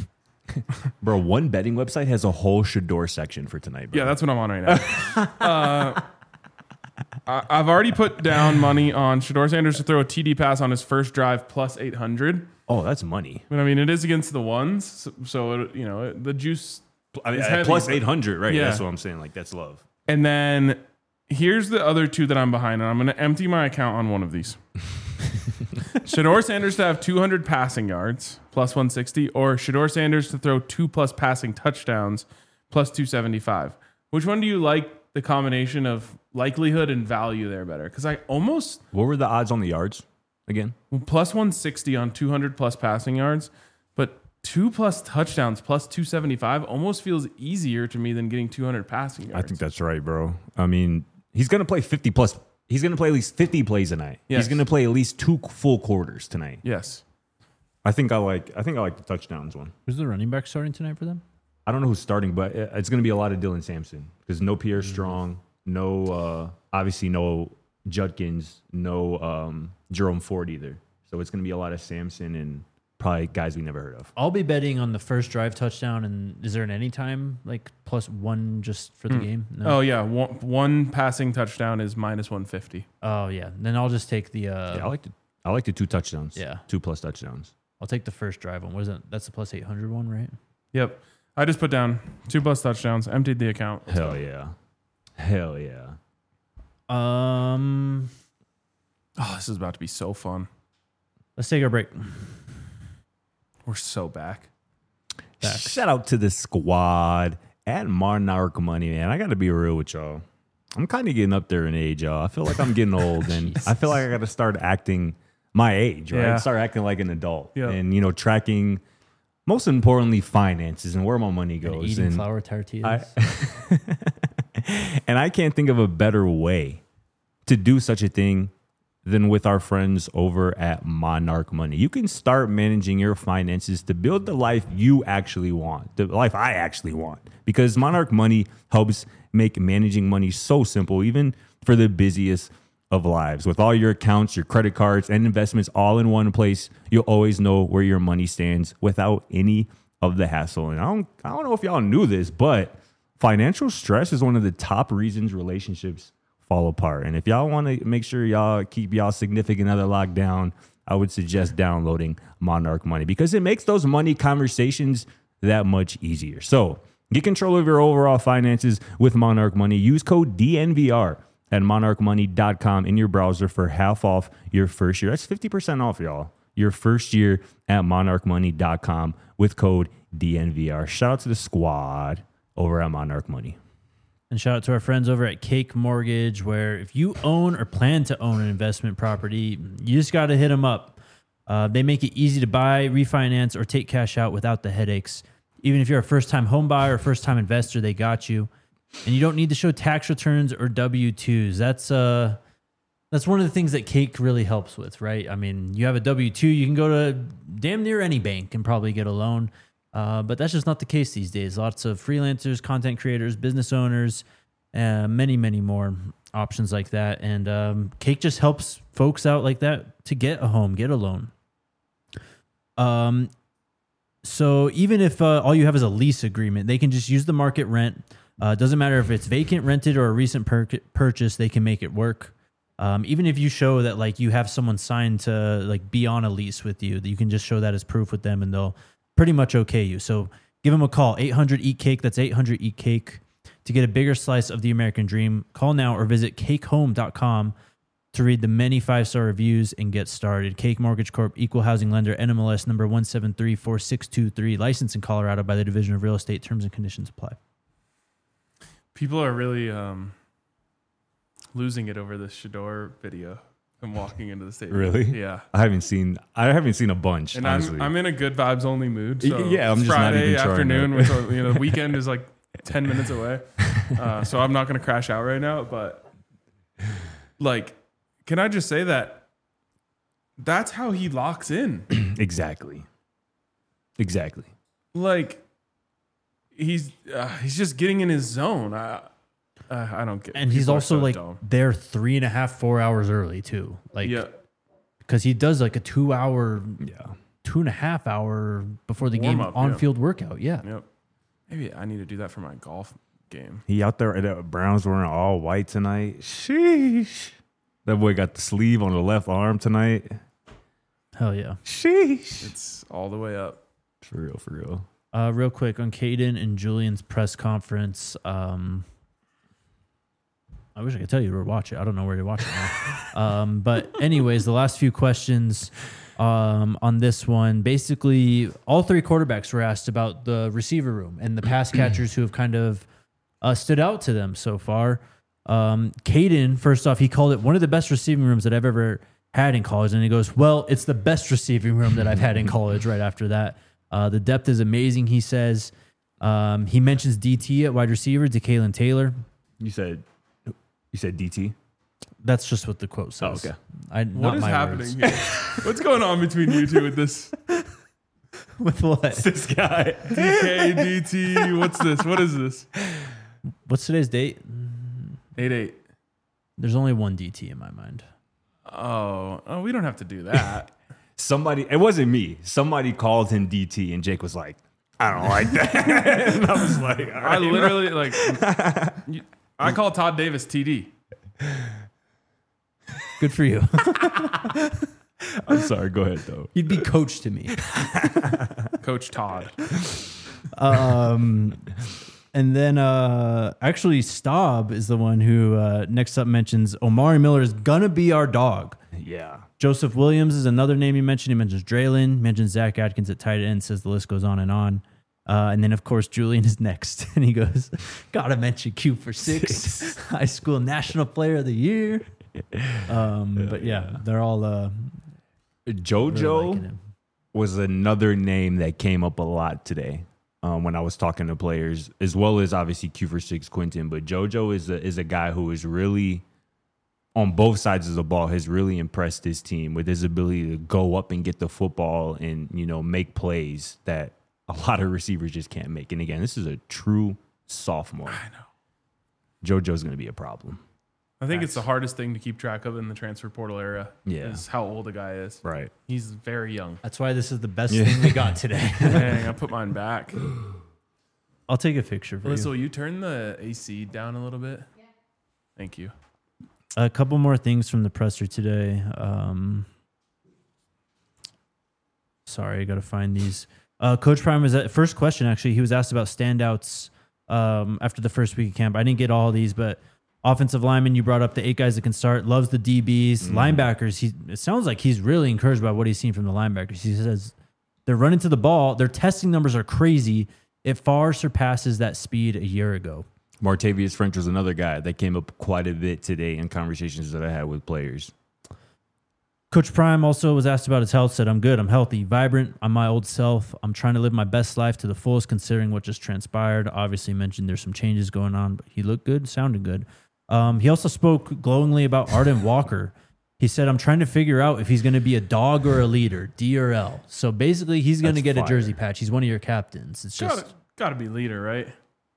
Bro, one betting website has a whole Shedeur section for tonight, bro. Yeah, that's what I'm on right now. uh, I, I've already put down money on Shedeur Sanders to throw a T D pass on his first drive plus eight hundred. Oh, that's money. But I mean, it is against the ones, so, so it, you know the juice. I mean, is at heavy, plus but- eight hundred, right? Yeah. That's what I'm saying. Like, that's love. And then here's the other two that I'm behind, and I'm going to empty my account on one of these. Shedeur Sanders to have two hundred passing yards, plus one sixty, or Shedeur Sanders to throw two plus passing touchdowns, plus two seventy-five. Which one do you like the combination of likelihood and value there better? Because I almost, What were the odds on the yards again? plus one sixty on two hundred plus passing yards, but two plus touchdowns, plus two seventy-five almost feels easier to me than getting two hundred passing yards. I think that's right, bro. I mean, he's going to play fifty plus. He's going to play at least fifty plays tonight. Yes. He's going to play at least two full quarters tonight. Yes. I think I like. I think I like the touchdowns one. who's the running back starting tonight for them? I don't know who's starting, but it- it's going to be a lot of Dylan Sampson because no Pierre Strong, no uh, obviously no Judkins, no um, Jerome Ford either. So it's going to be a lot of Sampson and probably guys we never heard of. I'll be betting on the first drive touchdown. And is there an anytime like plus one just for the game? Oh yeah, one, one passing touchdown is minus one fifty. Oh yeah. Then I'll just take the. Uh, Yeah, I like the I like the two touchdowns. Yeah. two plus touchdowns. I'll take the first drive one. What is that? That's the plus eight hundred one, right? Yep. I just put down two plus touchdowns, emptied the account. Let's Hell go. yeah, hell yeah. Um, Oh, this is about to be so fun. let's take a break. We're so back. Facts. Shout out to the squad at Martin Money, man. I got to be real with y'all. I'm kind of getting up there in age, y'all. I feel like I'm getting old, and I feel like I got to start acting my age, right? Yeah. Start acting like an adult, Yeah. and you know, tracking. Most importantly, finances and where my money And goes. eating And flour tortillas. I, and I can't think of a better way to do such a thing than with our friends over at Monarch Money. You can start managing your finances to build the life you actually want, the life I actually want, because Monarch Money helps make managing money so simple, even for the busiest of lives. With all your accounts, your credit cards, and investments all in one place, you'll always know where your money stands without any of the hassle. And I don't, I don't know if y'all knew this, but financial stress is one of the top reasons relationships fall apart. And if y'all want to make sure y'all keep y'all significant other locked down, I would suggest downloading Monarch Money because it makes those money conversations that much easier. So get control of your overall finances with Monarch Money. Use code D N V R at monarch money dot com in your browser for half off your first year. That's fifty percent off, y'all. Your first year at monarch money dot com with code D N V R. Shout out to the squad over at Monarch Money. And shout out to our friends over at Cake Mortgage, where if you own or plan to own an investment property, you just got to hit them up. Uh, they make it easy to buy, refinance, or take cash out without the headaches. Even if you're a first-time home buyer or first-time investor, they got you. And you don't need to show tax returns or W two's. That's uh, that's one of the things that Cake really helps with, right? I mean, you have a W two, you can go to damn near any bank and probably get a loan. Uh, but that's just not the case these days. Lots of freelancers, content creators, business owners, uh, many, many more options like that. And um, Cake just helps folks out like that to get a home, get a loan. Um, so even if uh, all you have is a lease agreement, they can just use the market rent. Uh, it doesn't matter if it's vacant, rented, or a recent pur- purchase, they can make it work. Um, even if you show that like you have someone signed to like be on a lease with you, you can just show that as proof with them and they'll pretty much okay you. So give them a call, eight hundred eat cake. That's eight hundred eat cake to get a bigger slice of the American dream. Call now or visit cake home dot com to read the many five-star reviews and get started. Cake Mortgage Corp, Equal Housing Lender, N M L S number one seven three four six two three, licensed in Colorado by the Division of Real Estate. Terms and conditions apply. People are really um, losing it over this Shador video. I'm walking into the stadium. Really? Yeah. I haven't seen. I haven't seen a bunch. And honestly. I'm I'm in a good vibes only mood. So Yeah, I'm it's just not Friday even trying afternoon. to- Which, you know, the weekend is like ten minutes away. Uh, so I'm not going to crash out right now. But like, can I just say that that's how he locks in? exactly. Exactly. Like, he's uh, he's just getting in his zone. I uh, I don't get. And he's people are also so like dumb. there three and a half, four hours early too. Like, Yeah. because he does like a two hour, Yeah. two and a half hour before the game Warm-up, on yeah. field workout. Yeah. Yep. Maybe I need to do that for my golf game. He out there at the Browns wearing all white tonight. Sheesh. That boy got the sleeve on the left arm tonight. Hell yeah. Sheesh. It's all the way up. For real, for real. Uh, real quick on Caden and Julian's press conference. Um, I wish I could tell you to watch it. I don't know where to watch it now. um, but anyways, the last few questions um, on this one, basically all three quarterbacks were asked about the receiver room and the pass catchers who have kind of uh, stood out to them so far. Um, Caden, first off, he called it one of the best receiving rooms that I've ever had in college. And he goes, well, it's the best receiving room that I've had in college right after that. Uh, the depth is amazing, he says. Um, he mentions D T at wide receiver, DeKalen Taylor. You said you said D T? That's just what the quote says. Oh, okay. I, What not is my happening words. here? What's going on between you two with this With what? This guy. D K, D T? What's this? What is this? What's today's date? eight eight. There's only one D T in my mind. Oh, oh, we don't have to do that. Somebody, it wasn't me. Somebody called him D T, and Jake was like, I don't like that. And I was like, all I right, bro. literally like. you- I call Todd Davis T D. Good for you. I'm sorry. Go ahead, though. You'd be coach to me. Coach Todd. Um, and then uh, actually, Staub is the one who uh, next up mentions Omari Miller is gonna be our dog. Yeah. Joseph Williams is another name he mentioned. He mentions Draylon, mentions Zach Atkins at tight end, says the list goes on and on. Uh, and then, of course, Julian is next. And he goes, gotta mention Q for six, high school national player of the year. Um, but yeah, they're all uh, really JoJo liking him. was another name that came up a lot today um, when I was talking to players, as well as obviously Q for six Quinton. But JoJo is a, is a guy who is really, on both sides of the ball, has really impressed his team with his ability to go up and get the football and, you know, make plays that a lot of receivers just can't make. And again, this is a true sophomore. I know. JoJo's going to be a problem. I think it's the hardest thing to keep track of in the transfer portal era. Yeah. Is how old a guy is. Right. He's very young. That's why this is the best thing we got today. Dang, I put mine back. I'll take a picture for Alyssa, you. will you turn the A C down a little bit? Yeah. Thank you. A couple more things from the presser today. Um, sorry, I got to find these. Uh, Coach Prime was at first question. Actually, he was asked about standouts um, after the first week of camp. I didn't get all of these, but offensive lineman, you brought up the eight guys that can start. Loves the D Bs, mm. linebackers. He it sounds like he's really encouraged by what he's seen from the linebackers. He says they're running to the ball. Their testing numbers are crazy. It far surpasses that speed a year ago. Martavius French was another guy that came up quite a bit today in conversations that I had with players. Coach Prime also was asked about his health, said, I'm good, I'm healthy, vibrant, I'm my old self. I'm trying to live my best life to the fullest considering what just transpired. Obviously mentioned there's some changes going on, but he looked good, sounded good. Um, he also spoke glowingly about Arden Walker. He said, I'm trying to figure out if he's going to be a dog or a leader, D or L. So basically he's going to get fire. a jersey patch. He's one of your captains. It's just... Gotta, gotta be leader, right?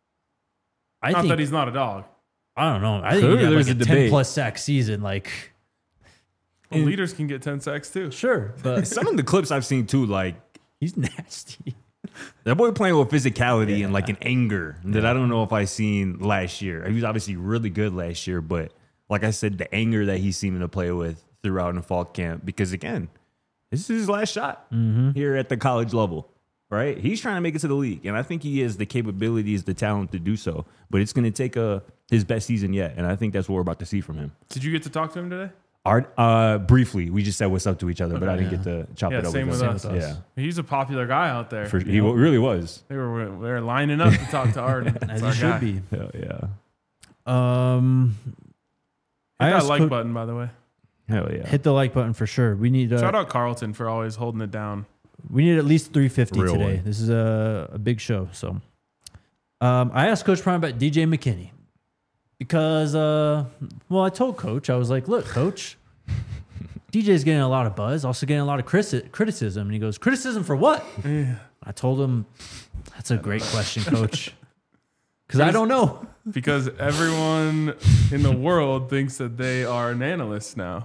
I not think, that he's not a dog. I don't know. I think Clearly he had there's like a, a ten debate. plus sack season. Like, Well, leaders can get ten sacks too. sure, but Some of the clips I've seen too, like he's nasty. that boy playing with physicality and like an anger that I don't know if I seen last year. He was obviously really good last year, but like I said, the anger that he's seeming to play with throughout in fall camp, because again, this is his last shot Mm-hmm. here at the college level, right? He's trying to make it to the league, and I think he has the capabilities, the talent to do so, but it's going to take a, his best season yet, and I think that's what we're about to see from him. Did you get to talk to him today? Art, uh, briefly, we just said what's up to each other, but I didn't Yeah. get to chop Yeah, it up same with with him. us. Yeah, He's a popular guy out there. For, he really was. They were they were lining up to talk to Arden. As That's he our should guy. be. Hell yeah. Um, I Hit that asked like Coach- button, by the way. Hell yeah. hit the like button for sure. We need Shout uh, out Carlton for always holding it down. we need at least three fifty Real today. one. This is a, a big show. So, um, I asked Coach Prime about D J McKinney because, uh, well, I told Coach, I was like, look, Coach, D J's getting a lot of buzz, also getting a lot of criti- criticism. And he goes, criticism for what? I told him, that's a great question, Coach. Because I don't know. Because everyone in the world thinks that they are an analyst now.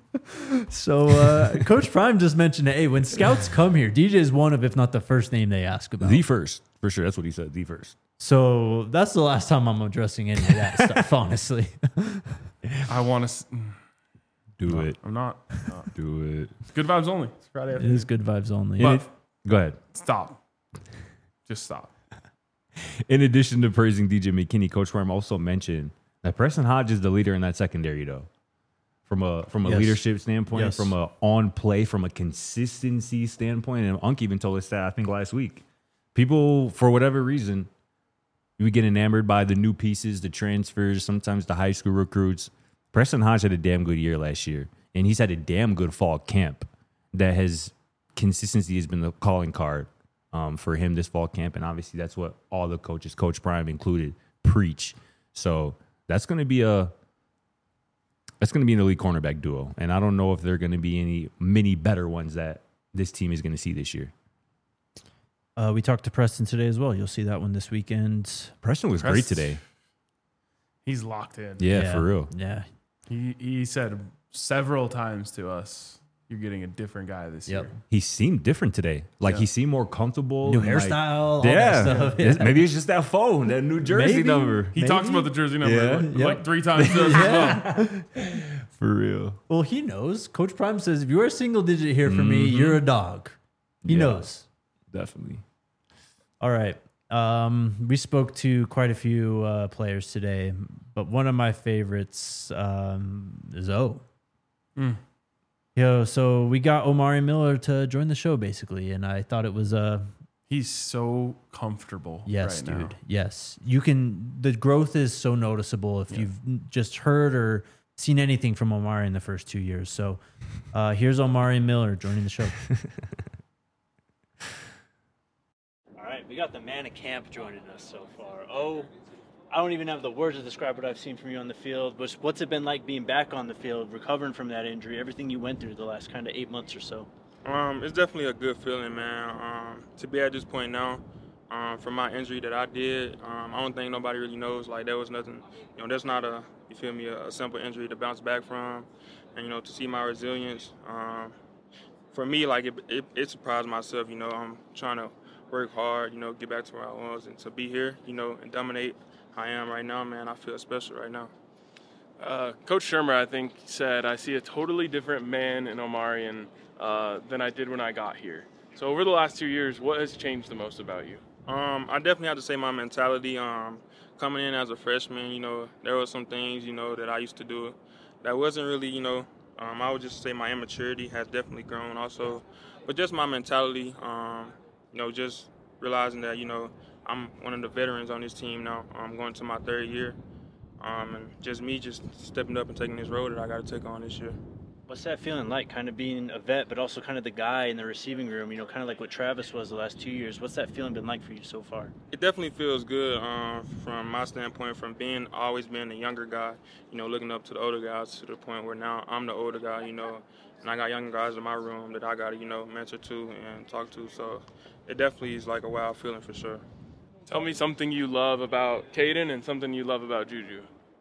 So uh, Coach Prime just mentioned, hey, when scouts come here, D J is one of, if not the first name they ask about. The first, for sure. That's what he said. The first. So that's the last time I'm addressing any of that stuff, honestly. I want to. Do it. I'm not. No. Do it. It's good vibes only. It's Friday It afternoon. is good vibes only. But Go ahead. stop. Just stop. In addition to praising D J McKinney, Coach Prime also mentioned that Preston Hodge is the leader in that secondary, though. From a from a Yes. leadership standpoint, Yes. from a on play, from a consistency standpoint, and Unk even told us that I think last week. People, for whatever reason, we get enamored by the new pieces, the transfers, sometimes the high school recruits. Preston Hodge had a damn good year last year, and he's had a damn good fall camp. That has consistency has been the calling card um, for him this fall camp, and obviously that's what all the coaches, Coach Prime included, preach. So that's going to be a that's going to be an elite cornerback duo, and I don't know if there are going to be any many better ones that this team is going to see this year. Uh, we talked to Preston today as well. You'll see that one this weekend. Preston was great Preston- today. He's locked in. Yeah, for real. Yeah. He he said several times to us, "You're getting a different guy this Yep. year." He seemed different today. Like Yeah. he seemed more comfortable. New and, like, hairstyle, all yeah. that stuff. It's- Maybe it's just that phone, that New Jersey Maybe. number. He Maybe. talks about the jersey number Yeah. like, Yep. like three times to us as well. For real. Well, he knows. Coach Prime says, if you're a single digit here for me, Mhm. you're a dog. He Yeah. knows. Definitely. All right. Um, we spoke to quite a few uh, players today, but one of my favorites um, is O. Mm. Yo, so we got Omari Miller to join the show, basically, and I thought it was uh, He's so comfortable. Yes, right dude. now. Yes. You can, the growth is so noticeable if Yeah. you've just heard or seen anything from Omari in the first two years. So uh, here's Omari Miller joining the show. All right, we got the man of camp joining us so far. Oh, I don't even have the words to describe what I've seen from you on the field. But what's it been like being back on the field, recovering from that injury, everything you went through the last kind of eight months or so? Um, it's definitely a good feeling, man. Um, to be at this point now, um, from my injury that I did, um, I don't think nobody really knows. Like, there was nothing, you know, that's not a, you feel me, a, a simple injury to bounce back from. And, you know, to see my resilience, um, for me, like, it, it, it surprised myself, you know. I'm trying to work hard, you know, get back to where I was. And to be here, you know, and dominate how I am right now, man, I feel special right now. Uh, Coach Shermer, I think, said, I see a totally different man in Omarion uh, than I did when I got here. So over the last two years, what has changed the most about you? Um, I definitely have to say my mentality. Um, coming in as a freshman, you know, there were some things, you know, that I used to do that wasn't really, you know, um, I would just say my immaturity has definitely grown also. But just my mentality, um, you know, just realizing that, you know, I'm one of the veterans on this team now. I'm going to my third year. Um, and just me just stepping up and taking this role that I got to take on this year. What's that feeling like, kind of being a vet, but also kind of the guy in the receiving room, you know, kind of like what Travis was the last two years? What's that feeling been like for you so far? It definitely feels good um, from my standpoint, from being always being the younger guy, you know, looking up to the older guys to the point where now I'm the older guy, you know, and I got younger guys in my room that I got to, you know, mentor to and talk to. So it definitely is like a wild feeling for sure. Tell me something you love about Caden and something you love about Juju.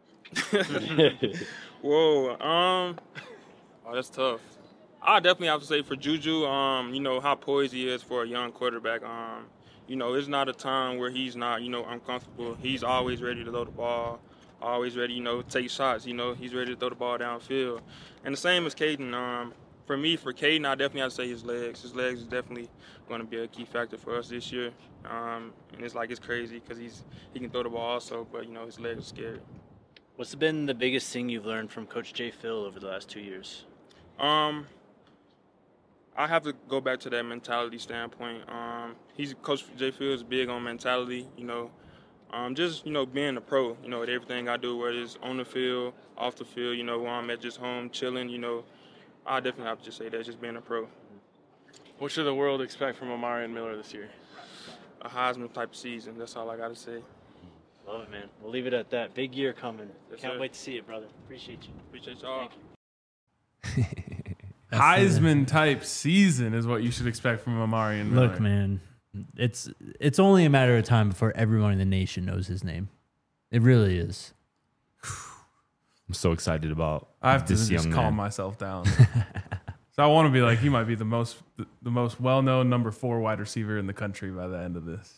Whoa, um, oh, that's tough. I definitely have to say for Juju, um, you know, how poised he is for a young quarterback. Um, you know, it's not a time where he's not, you know, uncomfortable. He's always ready to throw the ball, always ready, you know, take shots. You know, he's ready to throw the ball downfield. And the same as Caden. Um, for me, for Caden, I definitely have to say his legs. His legs is definitely going to be a key factor for us this year. Um, and it's like it's crazy because he's he can throw the ball also, but, you know, his legs are scary. What's been the biggest thing you've learned from Coach Jay Phil over the last two years? Um, I have to go back to that mentality standpoint. Um, he's Coach Jay Phil is big on mentality. You know, um, just you know being a pro. You know, at everything I do, whether it's on the field, off the field. You know, when I'm at just home chilling. You know, I definitely have to just say that, just being a pro. What should the world expect from Omarion Miller this year? A Heisman type of season. That's all I got to say. Love it, man. We'll leave it at that. Big year coming. Yes, Can't sir. wait to see it, brother. Appreciate you. Appreciate y'all. Thank you. Heisman type season is what you should expect from Omarion Miller. Look, man, it's it's only a matter of time before everyone in the nation knows his name. It really is. I'm so excited about I have to this just young calm man. myself down. So I want to be like, he might be the most the, the most well-known number four wide receiver in the country by the end of this.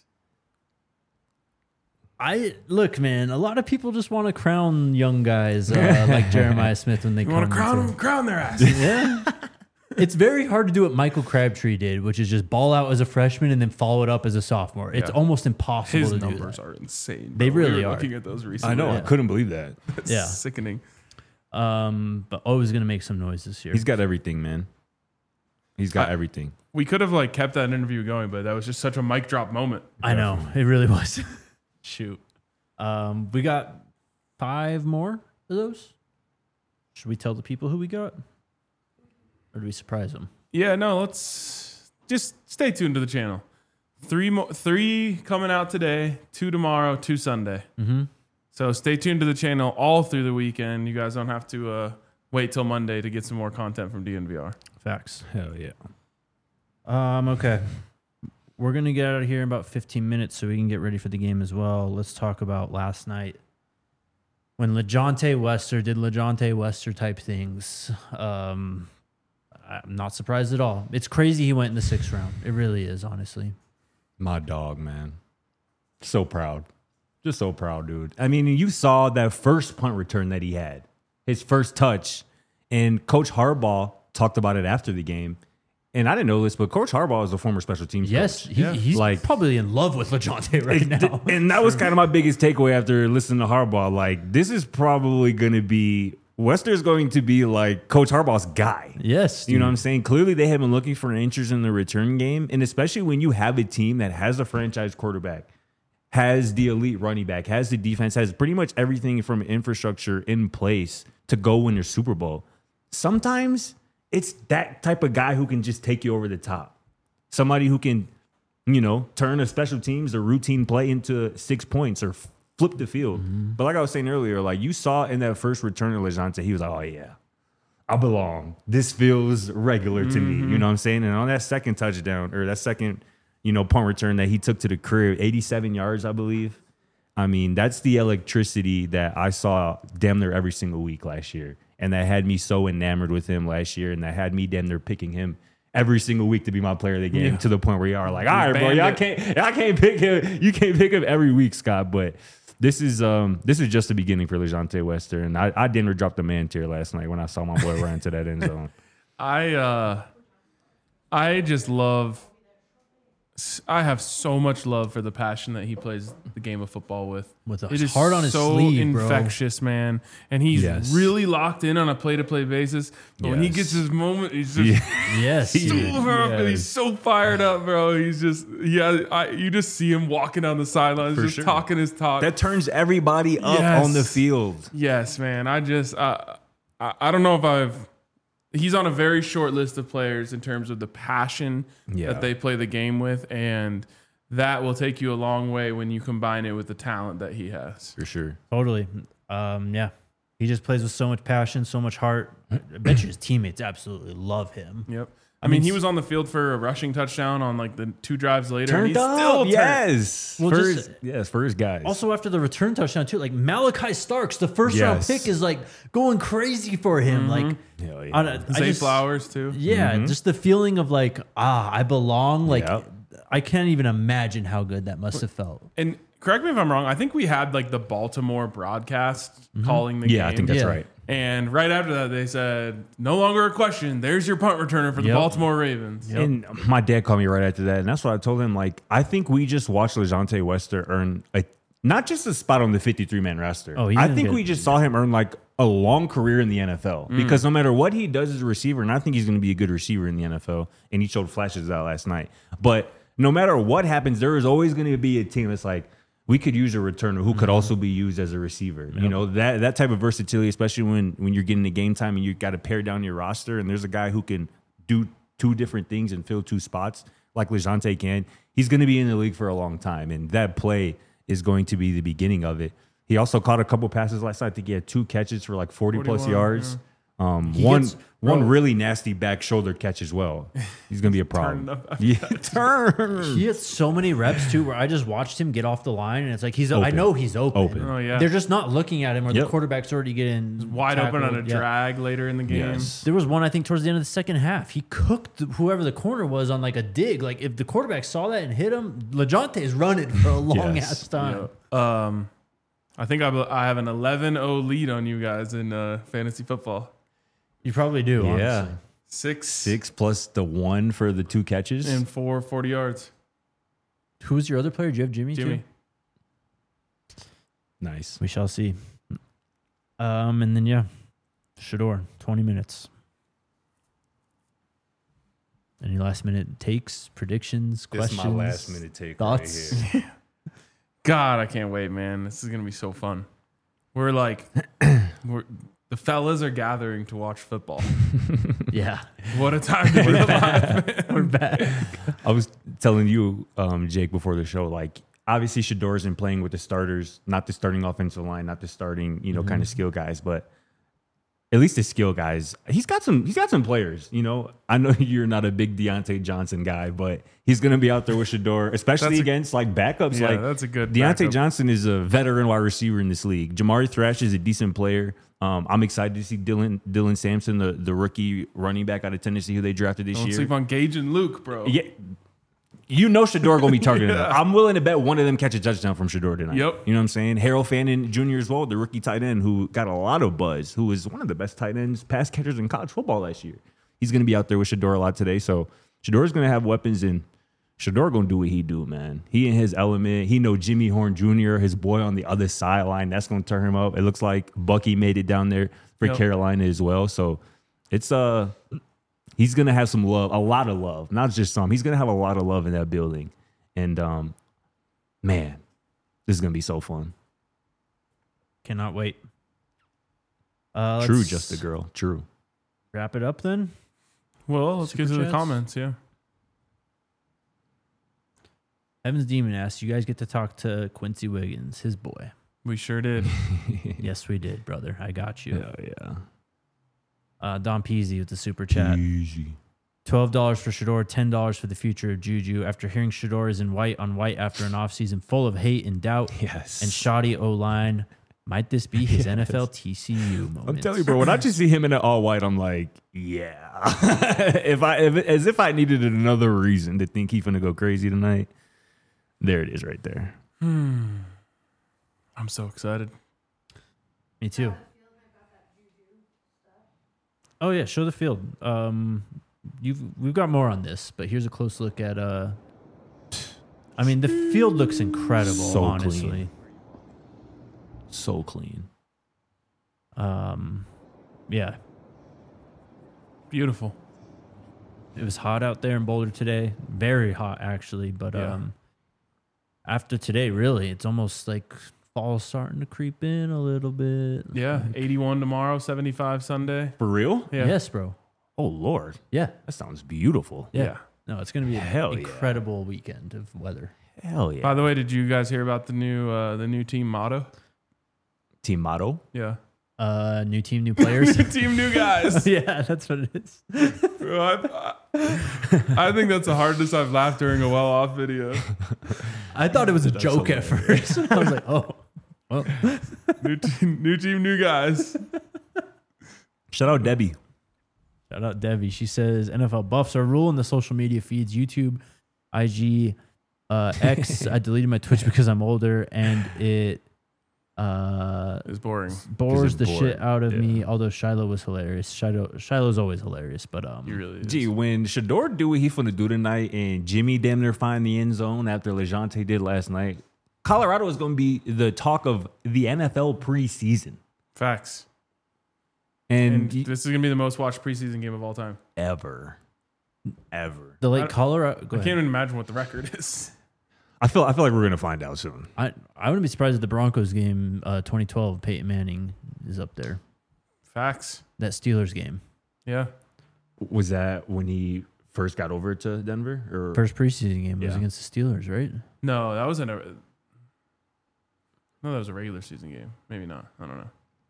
I look, man. A lot of people just want to crown young guys uh, like Jeremiah Smith when they You come want to crown into- them, crown their ass. Yeah. It's very hard to do what Michael Crabtree did, which is just ball out as a freshman and then follow it up as a sophomore. It's Yeah. almost impossible His to do numbers that. are insane. They bro. We really were are. Looking at those recently. I know. I Yeah. couldn't believe that. It's Yeah. sickening. Um, but always going to make some noise this year. He's got everything, man. He's got I- everything. We could have like kept that interview going, but that was just such a mic drop moment. I know. It really was. Shoot. Um, we got five more of those. Should we tell the people who we got? Or do we surprise them? Yeah, no, let's just stay tuned to the channel. Three mo- three coming out today, two tomorrow, two Sunday. Mm-hmm. So stay tuned to the channel all through the weekend. You guys don't have to uh, wait till Monday to get some more content from D N V R. Facts. Hell yeah. Um, okay. We're going to get out of here in about fifteen minutes so we can get ready for the game as well. Let's talk about last night when LeJontay Wester did LeJontay Wester type things. Um, I'm not surprised at all. It's crazy he went in the sixth round. It really is, honestly. My dog, man. So proud. Just so proud, dude. I mean, you saw that first punt return that he had, his first touch, and Coach Harbaugh talked about it after the game. And I didn't know this, but Coach Harbaugh is a former special teams Yes, coach. he, Yeah. he's Like- probably in love with LeJontay right now. And that was kind of my biggest takeaway after listening to Harbaugh. Like, this is probably going to be Wester's going to be like Coach Harbaugh's guy. Yes, You know dude. what I'm saying? Clearly, they have been looking for answers in the return game. And especially when you have a team that has a franchise quarterback, has the elite running back, has the defense, has pretty much everything from infrastructure in place to go win their Super Bowl. Sometimes it's that type of guy who can just take you over the top. Somebody who can, you know, turn a special teams or routine play into six points or flip the field. Mm-hmm. But like I was saying earlier, like you saw in that first return to LeJohntay, he was like, oh, yeah, I belong. This feels regular to Mm-hmm. me. You know what I'm saying? And on that second touchdown or that second, you know, punt return that he took to the crib, eighty-seven yards, I believe. I mean, that's the electricity that I saw damn near every single week last year. And that had me so enamored with him last year. And that had me damn near picking him every single week to be my player of the game, Yeah. to the point where you are like, all right, bro, banned y'all it. can't, y'all can't pick him. You can't pick him every week, Scott. But this is um this is just the beginning for LeJohntay Wester. And I, I didn't drop the man tier last night when I saw my boy run to that end zone. I uh, I just love. I have so much love for the passion that he plays the game of football with. With a It is heart on his so sleeve, bro. infectious, man, and he's Yes. really locked in on a play-to-play basis. But when he Yes. gets his moment, he's just Yes, so dude. up and he's Yes. so fired up, bro. He's just yeah. I, you just see him walking down the sidelines, For just sure. talking his talk. That turns everybody up Yes. on the field. Yes, man. I just uh, I I don't know if I've. He's on a very short list of players in terms of the passion Yeah. that they play the game with, and that will take you a long way when you combine it with the talent that he has. For sure. Totally. Um, yeah. He just plays with so much passion, so much heart. I bet you his teammates absolutely love him. Yep. I, mean, he was on the field for a rushing touchdown on like the two drives later. and Turned he's up, still turned. yes. Well, for just- his, yes, for his guys. Also, after the return touchdown, too, like Malachi Starks, the first round Yes. pick, is like going crazy for him. Like, Hell yeah. I, don't- I Zay just- Flowers too. Yeah, just the feeling of like, ah, I belong. Like, Yep. I can't even imagine how good that must have felt. And correct me if I'm wrong. I think we had like the Baltimore broadcast calling the game. yeah, I think that's Yeah. right. And right after that, they said, "No longer a question. There's your punt returner for the Yep. Baltimore Ravens." And my dad called me right after that, and that's what I told him. Like, I think we just watched LeJohntay Wester earn a not just a spot on the fifty-three man roster. Oh, he's I gonna think get- we just saw him earn like a long career in the N F L because no matter what he does as a receiver, and I think he's going to be a good receiver in the N F L, and he showed flashes of that last night. But no matter what happens, there is always going to be a team that's like, we could use a returner who could also be used as a receiver. You know, that that type of versatility, especially when when you're getting to game time and you got to pare down your roster, and there's a guy who can do two different things and fill two spots like LeJohntay can. He's going to be in the league for a long time, and that play is going to be the beginning of it. He also caught a couple passes last night. I think he had two catches for like forty plus forty-one, yards. Um, He one gets- one bro. really nasty back shoulder catch as well. He's going to be a problem. up after Yeah, turn. He had so many reps too, where I just watched him get off the line, and it's like he's. I Open. know he's open. Open. Oh yeah, They're just not looking at him, or Yep. the quarterback's already getting wide open on a tackled. Yeah. drag later in the game. Yes. There was one I think towards the end of the second half. He cooked whoever the corner was on like a dig. Like if the quarterback saw that and hit him, LeJohntay's running for a long Yes. ass time. Um, I think I, I have an eleven oh lead on you guys in uh, fantasy football. You probably do. Yeah. Honestly. Six, Six plus the one for the two catches. and four forty yards. Who's your other player? Do you have Jimmy? Jimmy. Too? Nice. We shall see. Um, and then yeah, Shador, twenty minutes. Any last minute takes, predictions, This is questions? my last minute take. thoughts. Right here. God, I can't wait, man. This is gonna be so fun. We're like, we're the fellas are gathering to watch football. Yeah, What a time to be alive, man. we're back. I was telling you, um, Jake, before the show, like obviously Shador isn't playing with the starters, not the starting offensive line, not the starting, you know, Mm-hmm. kind of skill guys, but at least the skill guys. He's got some. He's got some players. You know, I know you're not a big Deontay Johnson guy, but he's going to be out there with Shador, especially That's a- against like backups. Yeah, like that's a good Deontay backup. Johnson is a veteran wide receiver in this league. Jamari Thrash is a decent player. Um, I'm excited to see Dylan Dylan Sampson, the, the rookie running back out of Tennessee, who they drafted this Don't year. sleep on Gage and Luke, bro. Yeah, you know Shador gonna be targeting him. I'm willing to bet one of them catch a touchdown from Shador tonight. Yep. You know what I'm saying? Harold Fannin Junior as well, the rookie tight end who got a lot of buzz, who was one of the best tight ends, pass catchers in college football last year. He's gonna be out there with Shador a lot today. So Shador's gonna have weapons, and Shador gonna do what he do, man. He in his element. He know Jimmy Horn Junior, his boy on the other sideline. That's gonna turn him up. It looks like Bucky made it down there for Yep. Carolina as well. So it's uh he's gonna have some love, a lot of love, not just some. He's gonna have a lot of love in that building. And um, man, this is gonna be so fun. Cannot wait. Uh, True, let's just a girl. True. Wrap it up then. Well, let's get Super to the chats? comments. Yeah. Evans Demon asks, you guys get to talk to Quincy Wiggins, his boy. We sure did. Yes, we did, brother. I got you. Yeah, yeah. Uh, Don Peasy with the super chat. Easy. twelve dollars for Shador, ten dollars for the future of Juju. After hearing Shador is in white on white after an offseason full of hate and doubt Yes. and shoddy O-line, might this be his Yes. N F L T C U moment? I'm telling you, bro. When I just see him in an all white, I'm like, yeah. if I, if, as if I needed another reason to think he's gonna go crazy tonight. There it is, right there. I'm so excited. Me too. Oh yeah, show the field. Um, you've we've got more on this, but here's a close look at. Uh, I mean, the field looks incredible. So honestly, clean. So clean. um, yeah, Beautiful. it was hot out there in Boulder today. Very hot, actually. But Yeah. um, after today, really, it's almost like fall's starting to creep in a little bit. Yeah. eighty-one tomorrow, seventy-five Sunday. For real? Yeah. Yes, bro. Oh Lord, Yeah. that sounds beautiful. Yeah. Yeah. No, it's gonna be an Hell yeah. incredible weekend of weather. Hell yeah. By the way, did you guys hear about the new uh, the new team motto? Team motto. Yeah. Uh, new team, new players. New team, new guys. Yeah, that's what it is. Bro, I, I, I think that's the hardest I've laughed during a well off video. I thought it was a That's joke at hilarious. first. I was like, oh, well. New team, new team, new guys. Shout out Debbie. Shout out Debbie. She says N F L buffs are ruling the social media feeds, YouTube, I G, uh, X. I deleted my Twitch because I'm older and it uh, It's boring. bores it's the boring. shit out of Yeah. me. Although Shiloh was hilarious. Shiloh Shiloh's always hilarious, but um, You really is. Gee, when Shador do what he finna do tonight and Jimmy damn near find the end zone after LeJontay did last night, Colorado is going to be the talk of the N F L preseason. Facts. And, And y- this is gonna be the most watched preseason game of all time. ever. Ever. the I- late Colorado. Go I ahead. can't even imagine what the record is. I feel I feel like we're gonna find out soon. I I wouldn't be surprised if the Broncos game, uh, twenty twelve, Peyton Manning is up there. Facts. That Steelers game, Yeah. Was that when he first got over to Denver? Or first preseason game was Yeah. against the Steelers, right? No, that was in a. No, that was a regular season game. Maybe not. I don't know.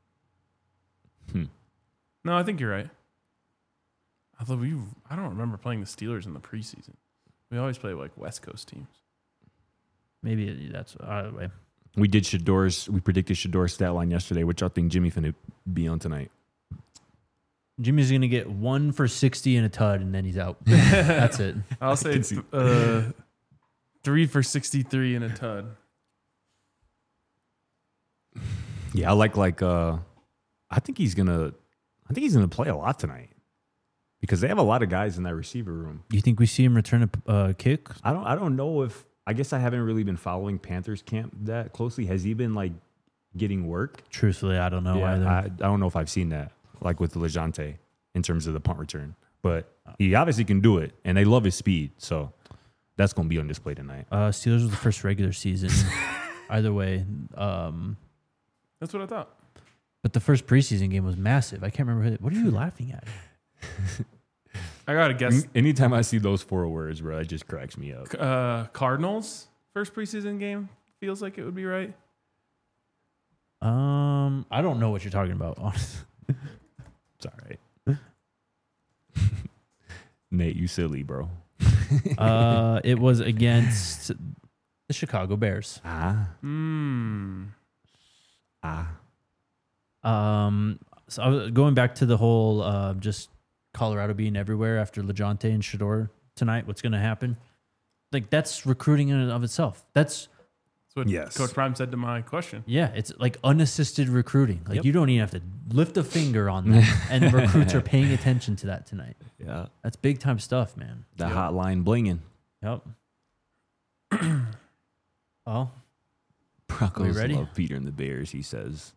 Hmm. No, I think you're right. Although we, I don't remember playing the Steelers in the preseason. We always play like West Coast teams. Maybe it- that's either way. we did Shador's. We predicted Shador's stat line yesterday, which I think Jimmy finna be on tonight. Jimmy's gonna get one for sixty and a tud, and then he's out. That's it. I'll say can see- uh, three for sixty-three and a tud. Yeah, I like like. uh I think he's gonna. I think he's gonna play a lot tonight because they have a lot of guys in that receiver room. Do you think we see him return a uh, kick? I don't. I don't know if. I guess I haven't really been following Panthers camp that closely. Has he been like getting work? Truthfully, I don't know Yeah, either. I, I don't know if I've seen that like with LeJontay in terms of the punt return, but he obviously can do it, and they love his speed. So that's gonna be on display tonight. uh, Steelers was the first regular season. Either way, um, That's what I thought. but the first preseason game was massive. I can't remember. Who, what are you laughing at? I gotta guess. Anytime I see those four words, bro, it just cracks me up. Uh, Cardinals first preseason game feels like it would be right. Um, I don't know what you're talking about. Honestly. It's all right. Nate, you silly, bro. Uh, it was against the Chicago Bears. Ah, Hmm. ah. Um, so I was going back to the whole uh, just Colorado being everywhere after LeJontay and Shador tonight. What's going to happen? Like that's recruiting in and of itself. That's That's what Yes. Coach Prime said to my question. yeah, it's like unassisted recruiting. Like Yep. you don't even have to lift a finger on that, and the recruits are paying attention to that tonight. Yeah. That's big time stuff, man. The Yep. hotline blinging. Yep. Oh, Broncos ready? love Peter and the Bears, he says.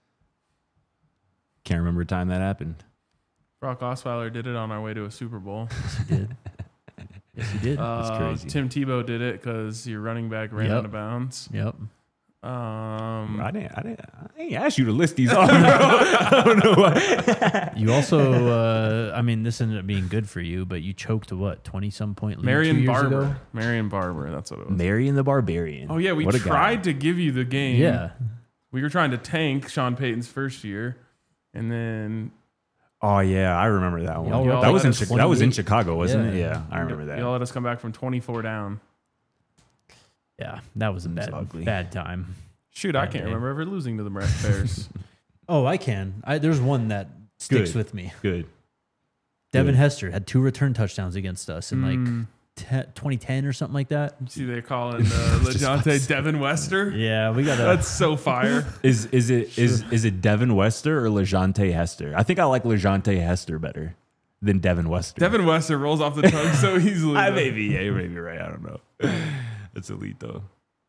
Can't remember a time that happened. Brock Osweiler did it on our way to a Super Bowl. yes, he did. Yes, he did. Uh, crazy. Tim Tebow did it because your running back ran Yep. out of bounds. Yep. Um, I didn't, I didn't, I ain't asked you to list these off, bro. I don't know why. You also, uh, I mean, this ended up being good for you, but you choked a what, twenty some point lead two Marion years Barber. ago? Marion Barber. That's what it was. Marion the Barbarian. Oh yeah, we What a guy. tried to give you the game. Yeah. We were trying to tank Sean Payton's first year, and then Oh yeah, I remember that one. Y'all were That was in at Chi- that was in twenty-eight. Chicago, wasn't it? Yeah. Yeah, I remember that. y'all let us come back from twenty-four down. Yeah, that was a bad, ugly. bad time. Shoot, I Bad can't day. remember ever losing to the Bears. Oh, I can. I, there's one that sticks Good. with me. Good. Devin Good. Hester had two return touchdowns against us in like Mm. te- twenty ten or something like that. See, they calling uh, LeJohntay Devin Wester. Yeah, we got That's so fire. Is is it is is it Devin Wester or LeJohntay Hester? I think I like LeJohntay Hester better than Devin Wester. Devin Wester rolls off the tongue so easily. I though. maybe yeah, you may be right. I don't know. That's elite though.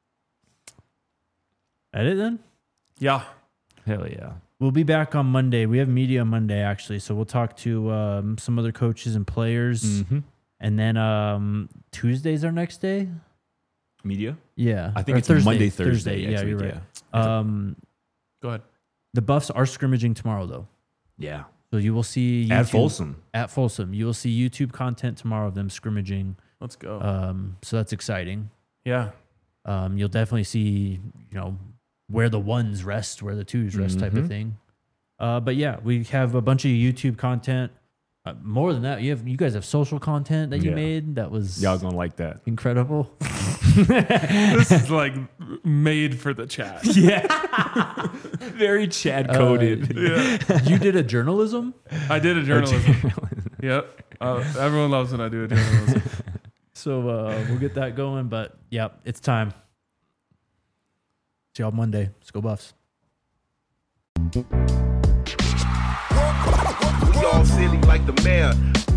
Edit then. Yeah. Hell yeah. We'll be back on Monday. We have media Monday actually, so we'll talk to um, some other coaches and players, Mm-hmm. and then um, Tuesday's our next day. Media. Yeah, I think Or it's Monday, Thursday. Yeah, next you're week, right. Um, Go ahead. the Buffs are scrimmaging tomorrow though, Yeah. so you will see yeah. At YouTube- Folsom. At Folsom, you will see YouTube content tomorrow of them scrimmaging. Let's go. Um, so that's exciting. yeah. Um, you'll definitely see, you know, where the ones rest, where the twos rest, type of Mhm. thing. Uh, but yeah, we have a bunch of YouTube content. Uh, more than that, you have you guys have social content that you Yeah. made that was Y'all gonna like that. incredible. This is like made for the chat. Yeah. Very Chad coded. Yeah. You did a journalism, I did a journalism. Yep. Uh, everyone loves when I do a journalism. so uh, we'll get that going. But yeah, it's time. See y'all Monday. Let's go Buffs. We all silly like the mayor.